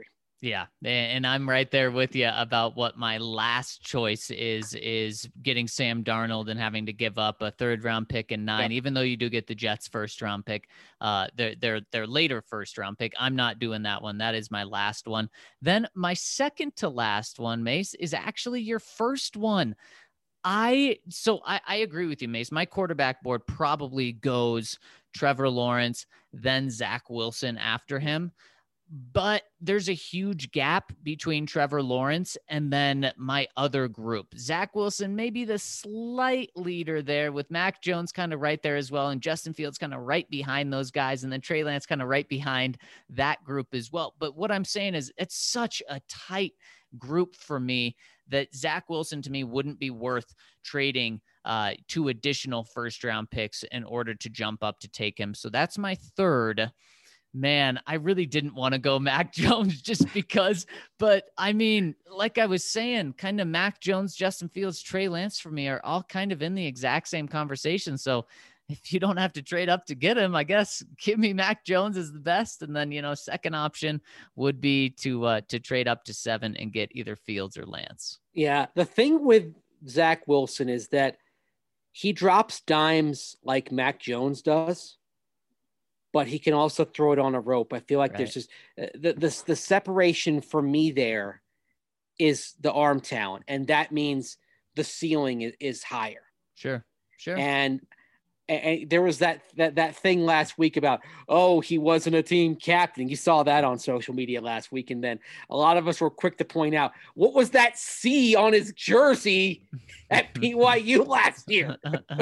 Yeah, and I'm right there with you about what my last choice is, is getting Sam Darnold and having to give up a third round pick and nine, Yep. even though you do get the Jets first round pick, uh, their, their, their later first round pick. I'm not doing that one. That is my last one. Then my second to last one, Mace, is actually your first one. I, so I, I agree with you, Mace. My quarterback board probably goes Trevor Lawrence, then Zach Wilson after him. But there's a huge gap between Trevor Lawrence and then my other group. Zach Wilson may be the slight leader there, with Mac Jones kind of right there as well, and Justin Fields kind of right behind those guys, and then Trey Lance kind of right behind that group as well. But what I'm saying is it's such a tight group for me that Zach Wilson to me wouldn't be worth trading uh, two additional first round picks in order to jump up to take him. So that's my third. Man, I really didn't want to go Mac Jones just because, but I mean, like I was saying, kind of Mac Jones, Justin Fields, Trey Lance for me are all kind of in the exact same conversation. So if you don't have to trade up to get him, I guess give me Mac Jones as the best. And then, you know, second option would be to, uh, to trade up to seven and get either Fields or Lance. Yeah. The thing with Zach Wilson is that he drops dimes like Mac Jones does, but he can also throw it on a rope. I feel like right. there's just uh, the, the, the separation for me there is the arm talent. And that means the ceiling is, is higher. Sure. Sure. And, and there was that, that, that thing last week about, oh, he wasn't a team captain. You saw that on social media last week. And then a lot of us were quick to point out, what was that C on his jersey at P Y U last year?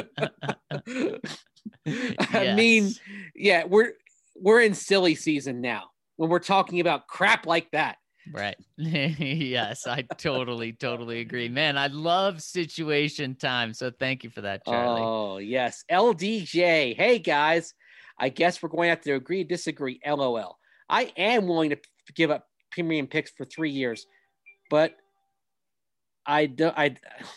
I Yes. mean, yeah, we're we're in silly season now when we're talking about crap like that. Right. Yes, I totally, totally agree. Man, I love situation time. So thank you for that, Charlie. Oh, yes. L D J. Hey, guys. I guess we're going to have to agree, disagree. L O L. I am willing to give up premium picks for three years, but I don't. I.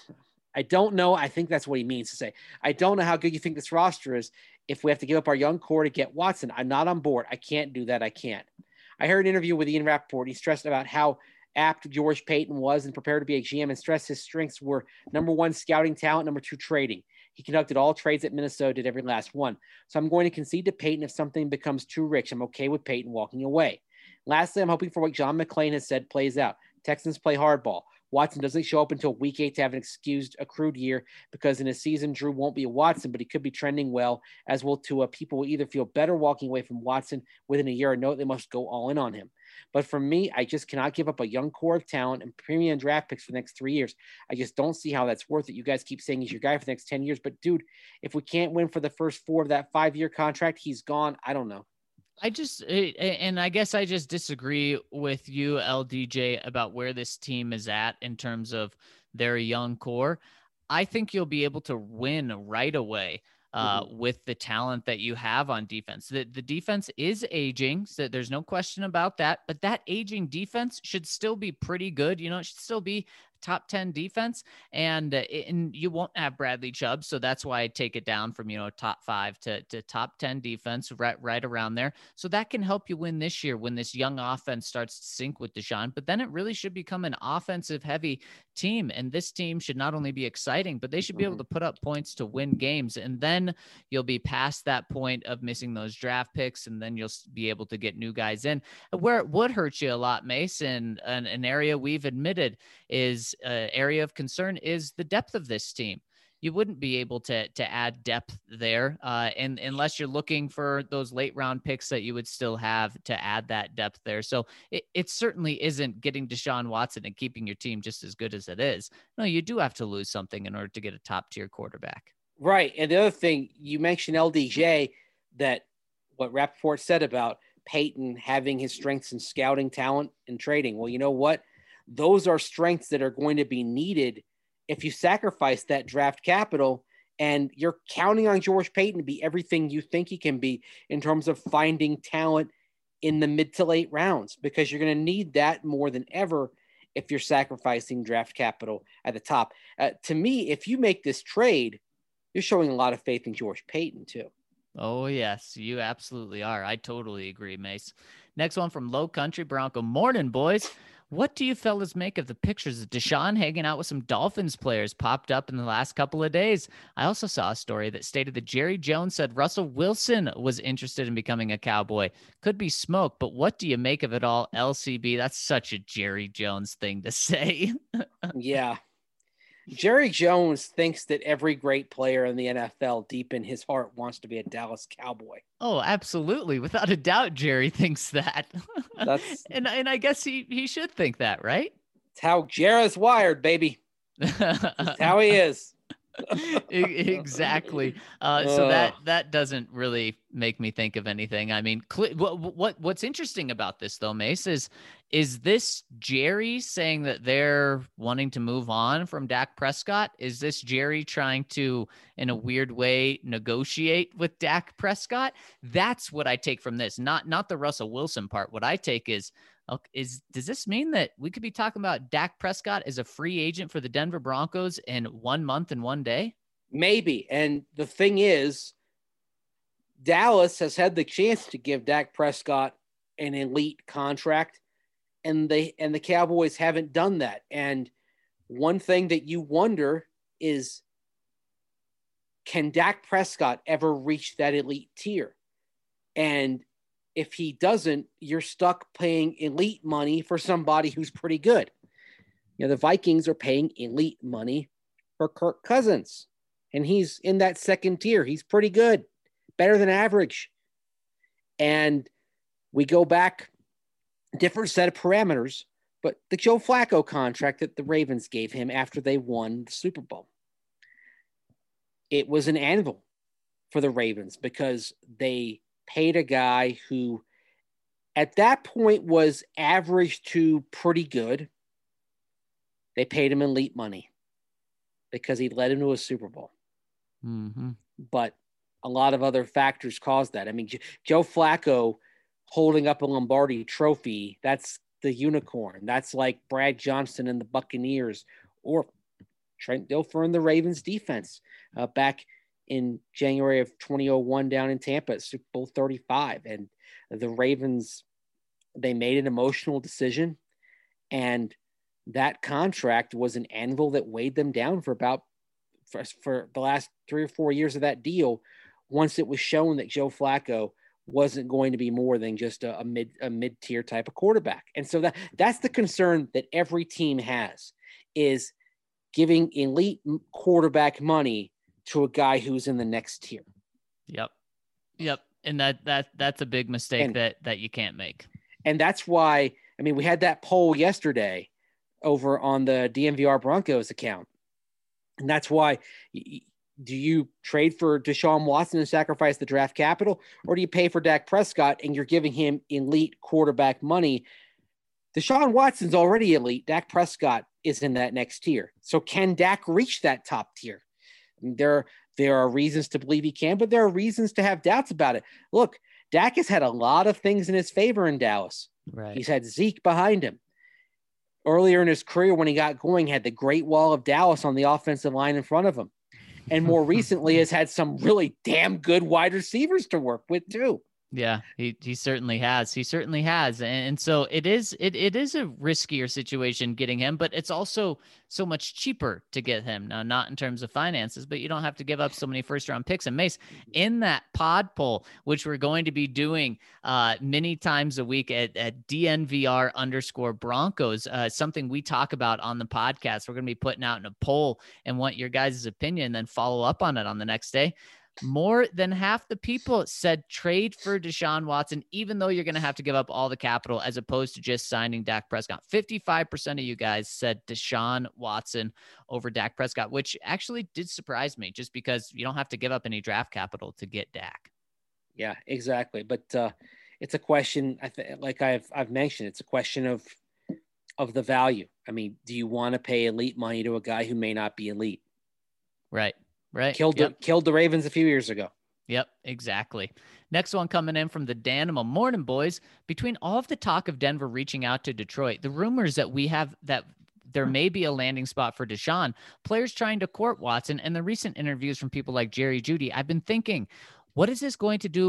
I don't know. I think that's what he means to say. I don't know how good you think this roster is if we have to give up our young core to get Watson. I'm not on board. I can't do that. I can't. I heard an interview with Ian Rappaport. He stressed about how apt George Payton was and prepared to be a G M, and stressed his strengths were number one, scouting talent, number two, trading. He conducted all trades at Minnesota, did every last one. So I'm going to concede to Payton if something becomes too rich. I'm okay with Payton walking away. Lastly, I'm hoping for what John McClain has said plays out. Texans play hardball. Watson doesn't show up until week eight to have an excused accrued year, because in a season, Drew won't be a Watson, but he could be trending well, as will Tua. People will either feel better walking away from Watson within a year or know they must go all in on him. But for me, I just cannot give up a young core of talent and premium draft picks for the next three years. I just don't see how that's worth it. You guys keep saying he's your guy for the next ten years, but dude, if we can't win for the first four of that five-year contract, he's gone. I don't know. I just, and I guess I just disagree with you, L D J, about where this team is at in terms of their young core. I think you'll be able to win right away uh, mm-hmm. with the talent that you have on defense. The, the defense is aging, so there's no question about that, but that aging defense should still be pretty good. You know, it should still be top ten defense, and, uh, and you won't have Bradley Chubb. So that's why I take it down from, you know, top five to, to top ten defense, right, right around there. So that can help you win this year when this young offense starts to sync with Deshaun, but then it really should become an offensive heavy team. And this team should not only be exciting, but they should be able to put up points to win games. And then you'll be past that point of missing those draft picks. And then you'll be able to get new guys in. Where it would hurt you a lot, Mason, an, an area we've admitted is uh, area of concern is the depth of this team. You wouldn't be able to to add depth there, uh, and unless you're looking for those late round picks that you would still have to add that depth there. So it, it certainly isn't getting Deshaun Watson and keeping your team just as good as it is. No, you do have to lose something in order to get a top tier quarterback. Right, and the other thing you mentioned, L D J, that what Rappaport said about Payton having his strengths in scouting, talent, and trading. Well, you know what? Those are strengths that are going to be needed if you sacrifice that draft capital, and you're counting on George Payton to be everything you think he can be in terms of finding talent in the mid to late rounds, because you're going to need that more than ever if you're sacrificing draft capital at the top. Uh, to me, if you make this trade, you're showing a lot of faith in George Payton too. Oh, yes, you absolutely are. I totally agree, Mace. Next one from Low Country Bronco. Morning, boys. What do you fellas make of the pictures of Deshaun hanging out with some Dolphins players popped up in the last couple of days? I also saw a story that stated that Jerry Jones said Russell Wilson was interested in becoming a Cowboy. Could be smoke, but what do you make of it all, L C B? That's such a Jerry Jones thing to say. Yeah. Jerry Jones thinks that every great player in the N F L deep in his heart wants to be a Dallas Cowboy. Oh, absolutely. Without a doubt, Jerry thinks that. That's and and I guess he, he should think that, right? It's how Jerry's wired, baby. That's how he is. Exactly. Uh, so that that doesn't really make me think of anything. I mean, cl- what what what's interesting about this though, Mace, is is this Jerry saying that they're wanting to move on from Dak Prescott? Is this Jerry trying to, in a weird way, negotiate with Dak Prescott? That's what I take from this. Not not the Russell Wilson part. What I take is, is does this mean that we could be talking about Dak Prescott as a free agent for the Denver Broncos in one month and one day? Maybe. And the thing is, Dallas has had the chance to give Dak Prescott an elite contract, and they and the Cowboys haven't done that. And one thing that you wonder is, can Dak Prescott ever reach that elite tier? And if he doesn't, you're stuck paying elite money for somebody who's pretty good. You know, the Vikings are paying elite money for Kirk Cousins, and he's in that second tier. He's pretty good, better than average. And we go back, different set of parameters, but the Joe Flacco contract that the Ravens gave him after they won the Super Bowl, it was an anvil for the Ravens because they paid a guy who at that point was average to pretty good. They paid him elite money because he led him to a Super Bowl. Mm-hmm. But a lot of other factors caused that. I mean, Joe Flacco holding up a Lombardi trophy, that's the unicorn. That's like Brad Johnson and the Buccaneers, or Trent Dilfer and the Ravens defense uh, back in January of twenty oh one down in Tampa at Super Bowl thirty-five. And the Ravens, they made an emotional decision, and that contract was an anvil that weighed them down for about for, for the last three or four years of that deal. Once it was shown that Joe Flacco wasn't going to be more than just a, a mid a mid-tier type of quarterback. And so that that's the concern that every team has, is giving elite quarterback money to a guy who's in the next tier. Yep. Yep. And that, that, that's a big mistake and, that, that you can't make. And that's why, I mean, we had that poll yesterday over on the D N V R Broncos account. And that's why, do you trade for Deshaun Watson and sacrifice the draft capital, or do you pay for Dak Prescott and you're giving him elite quarterback money? Deshaun Watson's already elite. Dak Prescott is in that next tier. So can Dak reach that top tier? There, there are reasons to believe he can, but there are reasons to have doubts about it. Look, Dak has had a lot of things in his favor in Dallas. Right. He's had Zeke behind him. Earlier in his career, when he got going, had the Great Wall of Dallas on the offensive line in front of him. And more recently has had some really damn good wide receivers to work with too. Yeah, he, he certainly has. He certainly has. And so it is it it is a riskier situation getting him, but it's also so much cheaper to get him. Now, not in terms of finances, but you don't have to give up so many first round picks. And Mace, in that pod poll, which we're going to be doing uh, many times a week at, at D N V R underscore Broncos, uh, something we talk about on the podcast, we're going to be putting out in a poll and want your guys' opinion, then follow up on it on the next day. More than half the people said trade for Deshaun Watson, even though you're going to have to give up all the capital, as opposed to just signing Dak Prescott. fifty-five percent of you guys said Deshaun Watson over Dak Prescott, which actually did surprise me, just because you don't have to give up any draft capital to get Dak. Yeah, exactly. But uh, it's a question, I th- like I've I've mentioned, it's a question of of the value. I mean, do you want to pay elite money to a guy who may not be elite? Right. Right. Killed, yep. the, killed the Ravens a few years ago. Yep, exactly. Next one coming in from the Danimal. Morning, boys. Between all of the talk of Denver reaching out to Detroit, the rumors that we have that there may be a landing spot for Deshaun, players trying to court Watson, and the recent interviews from people like Jerry Jeudy, I've been thinking, what is this going to do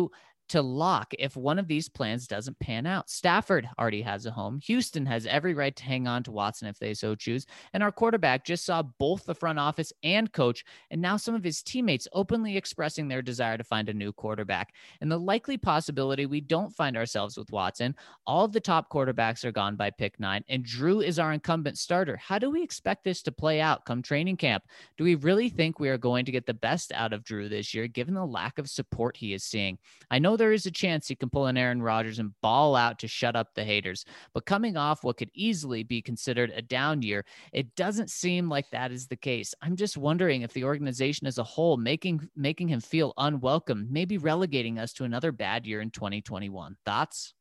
to lock if one of these plans doesn't pan out. Stafford already has a home. Houston has every right to hang on to Watson if they so choose. And our quarterback just saw both the front office and coach, and now some of his teammates openly expressing their desire to find a new quarterback. And the likely possibility we don't find ourselves with Watson, all of the top quarterbacks are gone by pick nine, and Drew is our incumbent starter. How do we expect this to play out come training camp? Do we really think we are going to get the best out of Drew this year, given the lack of support he is seeing? I know there is a chance he can pull an Aaron Rodgers and ball out to shut up the haters, but coming off what could easily be considered a down year, it doesn't seem like that is the case. I'm just wondering if the organization as a whole making making him feel unwelcome, maybe relegating us to another bad year in twenty twenty-one. Thoughts?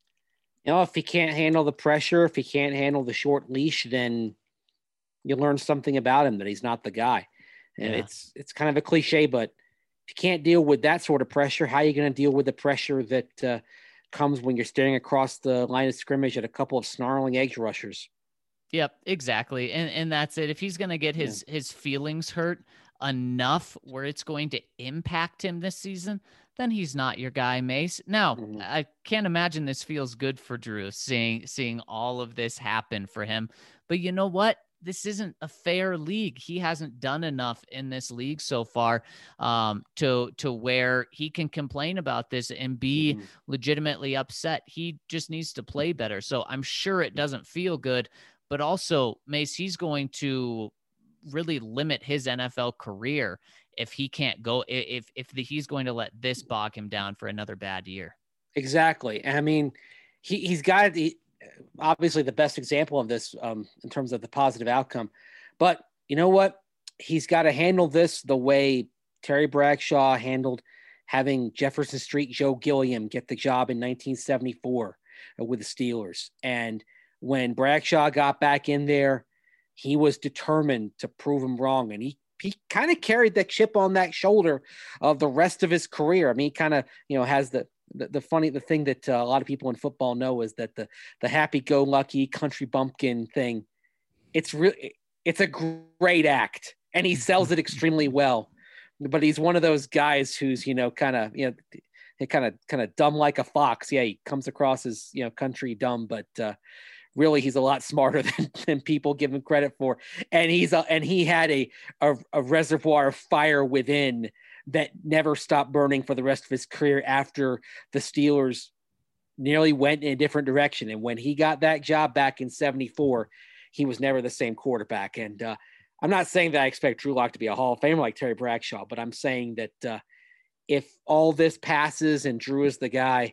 You know, if he can't handle the pressure, if he can't handle the short leash, then you learn something about him, that he's not the guy. And Yeah. it's it's kind of a cliche, but if you can't deal with that sort of pressure, how are you going to deal with the pressure that uh, comes when you're staring across the line of scrimmage at a couple of snarling edge rushers? Yep, exactly. And and that's it. If he's going to get his yeah. his feelings hurt enough where it's going to impact him this season, then he's not your guy, Mace. Now, mm-hmm. I can't imagine this feels good for Drew, seeing seeing all of this happen for him. But you know what? This isn't a fair league. He hasn't done enough in this league so far um, to to where he can complain about this and be mm-hmm. legitimately upset. He just needs to play better. So I'm sure it doesn't feel good, but also, Mace, he's going to really limit his N F L career if he can't go, if if the, he's going to let this bog him down for another bad year. Exactly. I mean, he, he's got the, obviously the best example of this um, in terms of the positive outcome. But you know what? He's got to handle this the way Terry Bradshaw handled having Jefferson Street Joe Gilliam get the job in nineteen seventy-four with the Steelers. And when Bradshaw got back in there, he was determined to prove him wrong. And he he kind of carried that chip on that shoulder of the rest of his career. I mean, he kind of, you know, has the, The, the funny, the thing that uh, a lot of people in football know is that the, the happy-go-lucky country bumpkin thing, it's really, it's a great act and he sells it extremely well, but he's one of those guys who's, you know, kind of, you know, kind of, kind of dumb like a fox. Yeah. He comes across as, you know, country dumb, but uh, really he's a lot smarter than, than people give him credit for. And he's, a, and he had a, a, a reservoir of fire within that never stopped burning for the rest of his career after the Steelers nearly went in a different direction. And when he got that job back in seventy-four, he was never the same quarterback. And uh, I'm not saying that I expect Drew Lock to be a Hall of Famer like Terry Bradshaw, but I'm saying that uh, if all this passes and Drew is the guy,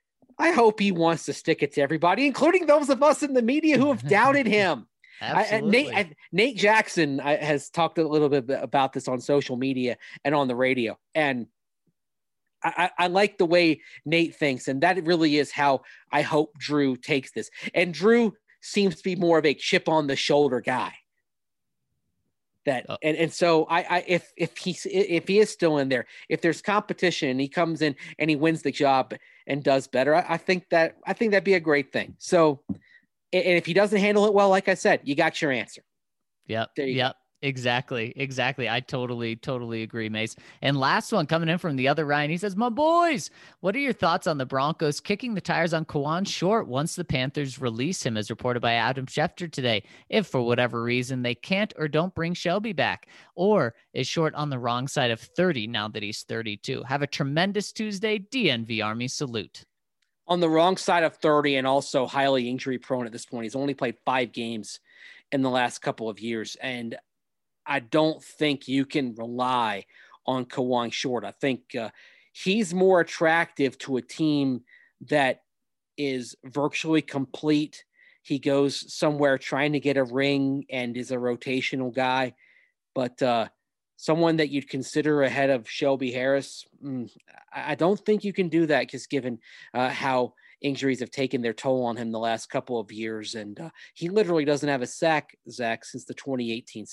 I hope he wants to stick it to everybody, including those of us in the media who have doubted him. Absolutely. I, Nate, I, Nate Jackson I, has talked a little bit about this on social media and on the radio. And I, I like the way Nate thinks. And that really is how I hope Drew takes this. And Drew seems to be more of a chip on the shoulder guy. That oh. and, and so I, I if if he's if he is still in there, if there's competition and he comes in and he wins the job and does better, I, I think that I think that'd be a great thing. So and if he doesn't handle it well, like I said, you got your answer. Yep. Yep. Go. Exactly. Exactly. I totally, totally agree, Mace. And last one coming in from the other Ryan, he says, my boys, what are your thoughts on the Broncos kicking the tires on Kawann Short once the Panthers release him, as reported by Adam Schefter today, if for whatever reason they can't or don't bring Shelby back? Or is Short on the wrong side of thirty now that he's thirty-two? Have a tremendous Tuesday. D N V Army salute. On the wrong side of thirty and also highly injury prone at this point. He's only played five games in the last couple of years. And I don't think you can rely on Kawann Short. I think uh, he's more attractive to a team that is virtually complete. He goes somewhere trying to get a ring and is a rotational guy. But uh, someone that you'd consider ahead of Shelby Harris, mm, I don't think you can do that, just given uh, how injuries have taken their toll on him the last couple of years. And uh, he literally doesn't have a sack, Zach, since the twenty eighteen season.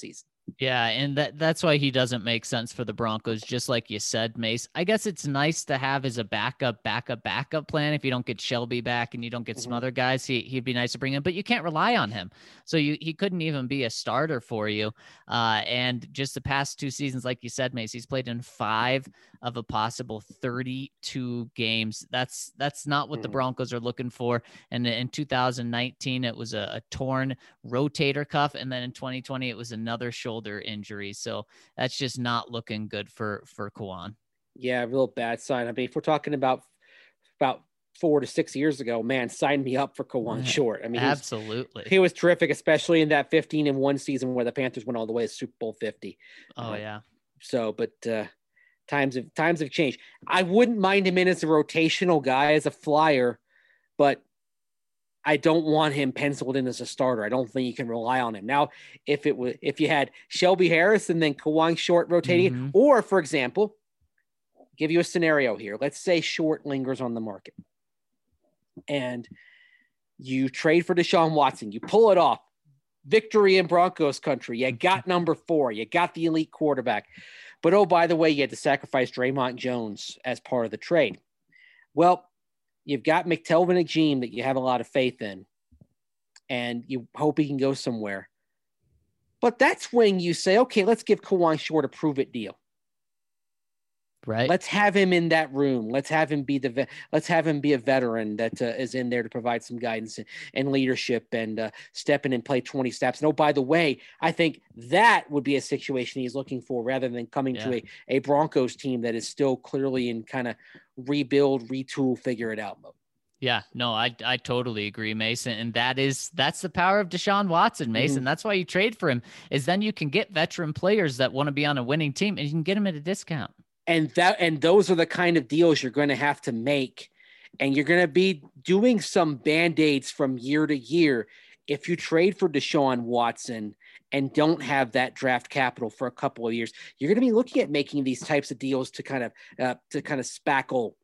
Yeah, and that that's why he doesn't make sense for the Broncos, just like you said, Mace. I guess it's nice to have as a backup, backup, backup plan. If you don't get Shelby back and you don't get some Mhm. other guys, he, he'd be nice to bring in, but you can't rely on him. So you he couldn't even be a starter for you. Uh, and just the past two seasons, like you said, Mace, he's played in five of a possible thirty-two games. That's that's not what the Mhm. Broncos are looking for. And in two thousand nineteen, it was a, a torn rotator cuff, and then in twenty twenty it was another shoulder injury. So that's just not looking good for for Kawon. Yeah, real bad sign. I mean, if we're talking about about four to six years ago, man, sign me up for Kawon Short. I mean, he was, Absolutely. he was terrific, especially in that fifteen and one season where the Panthers went all the way to Super Bowl fifty. Oh Uh, yeah. So, but uh, times have times have changed. I wouldn't mind him in as a rotational guy, as a flyer, but I don't want him penciled in as a starter. I don't think you can rely on him. Now, if it was if you had Shelby Harris and then Kawhi Short rotating, Mhm. or for example, give you a scenario here. Let's say Short lingers on the market and you trade for Deshaun Watson. You pull it off. Victory in Broncos country. You got number four. You got the elite quarterback. But, oh, by the way, you had to sacrifice Draymond Jones as part of the trade. Well, you've got McTelvin Agim that you have a lot of faith in, and you hope he can go somewhere. But that's when you say, okay, let's give Kawhi Short a prove-it deal. Right. Let's have him in that room. Let's have him be the ve- let's have him be a veteran that uh, is in there to provide some guidance and, and leadership and uh, step in and play twenty snaps. And oh, by the way, I think that would be a situation he's looking for rather than coming Yeah. to a, a Broncos team that is still clearly in kind of rebuild, retool, figure it out mode. Yeah, no, I I totally agree, Mason. And that is that's the power of Deshaun Watson, Mason. Mhm. That's why you trade for him, is then you can get veteran players that want to be on a winning team and you can get them at a discount. And that and those are the kind of deals you're going to have to make. And you're going to be doing some band-aids from year to year if you trade for Deshaun Watson and don't have that draft capital for a couple of years. You're going to be looking at making these types of deals to kind of uh, to kind of spackle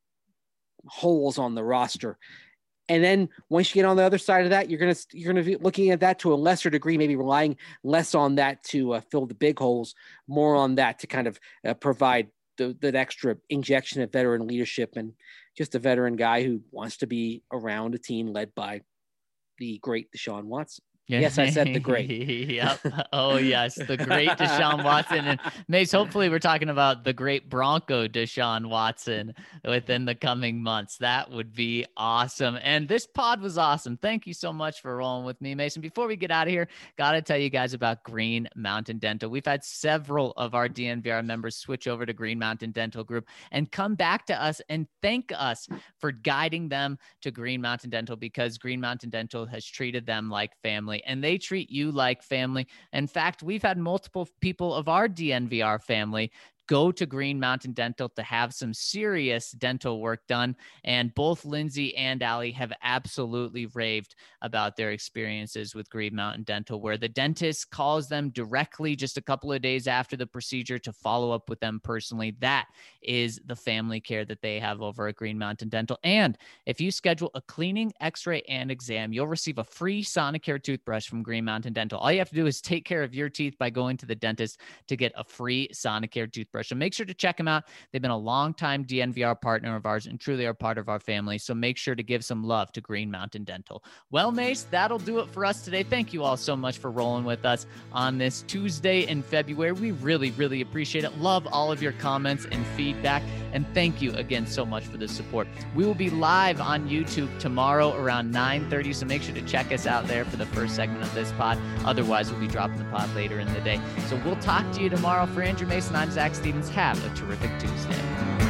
holes on the roster. And then once you get on the other side of that, you're going to you're going to be looking at that to a lesser degree, maybe relying less on that to uh, fill the big holes, more on that to kind of uh, provide the, that extra injection of veteran leadership and just a veteran guy who wants to be around a team led by the great Deshaun Watson. Yes, I said the great. Yep. Oh, yes, the great Deshaun Watson. And Mace, hopefully we're talking about the great Bronco Deshaun Watson within the coming months. That would be awesome. And this pod was awesome. Thank you so much for rolling with me, Mason. Before we get out of here, got to tell you guys about Green Mountain Dental. We've had several of our D N V R members switch over to Green Mountain Dental Group and come back to us and thank us for guiding them to Green Mountain Dental, because Green Mountain Dental has treated them like family. And they treat you like family. In fact, we've had multiple people of our D N V R family go to Green Mountain Dental to have some serious dental work done. And both Lindsay and Allie have absolutely raved about their experiences with Green Mountain Dental, where the dentist calls them directly just a couple of days after the procedure to follow up with them personally. That is the family care that they have over at Green Mountain Dental. And if you schedule a cleaning, x-ray, and exam, you'll receive a free Sonicare toothbrush from Green Mountain Dental. All you have to do is take care of your teeth by going to the dentist to get a free Sonicare toothbrush. So make sure to check them out. They've been a longtime D N V R partner of ours and truly are part of our family. So make sure to give some love to Green Mountain Dental. Well, Mace, that'll do it for us today. Thank you all so much for rolling with us on this Tuesday in February. We really, really appreciate it. Love all of your comments and feedback. And thank you again so much for the support. We will be live on YouTube tomorrow around nine thirty. So make sure to check us out there for the first segment of this pod. Otherwise, we'll be dropping the pod later in the day. So we'll talk to you tomorrow. For Andrew Mason, I'm Zach Stevens. Have a terrific Tuesday.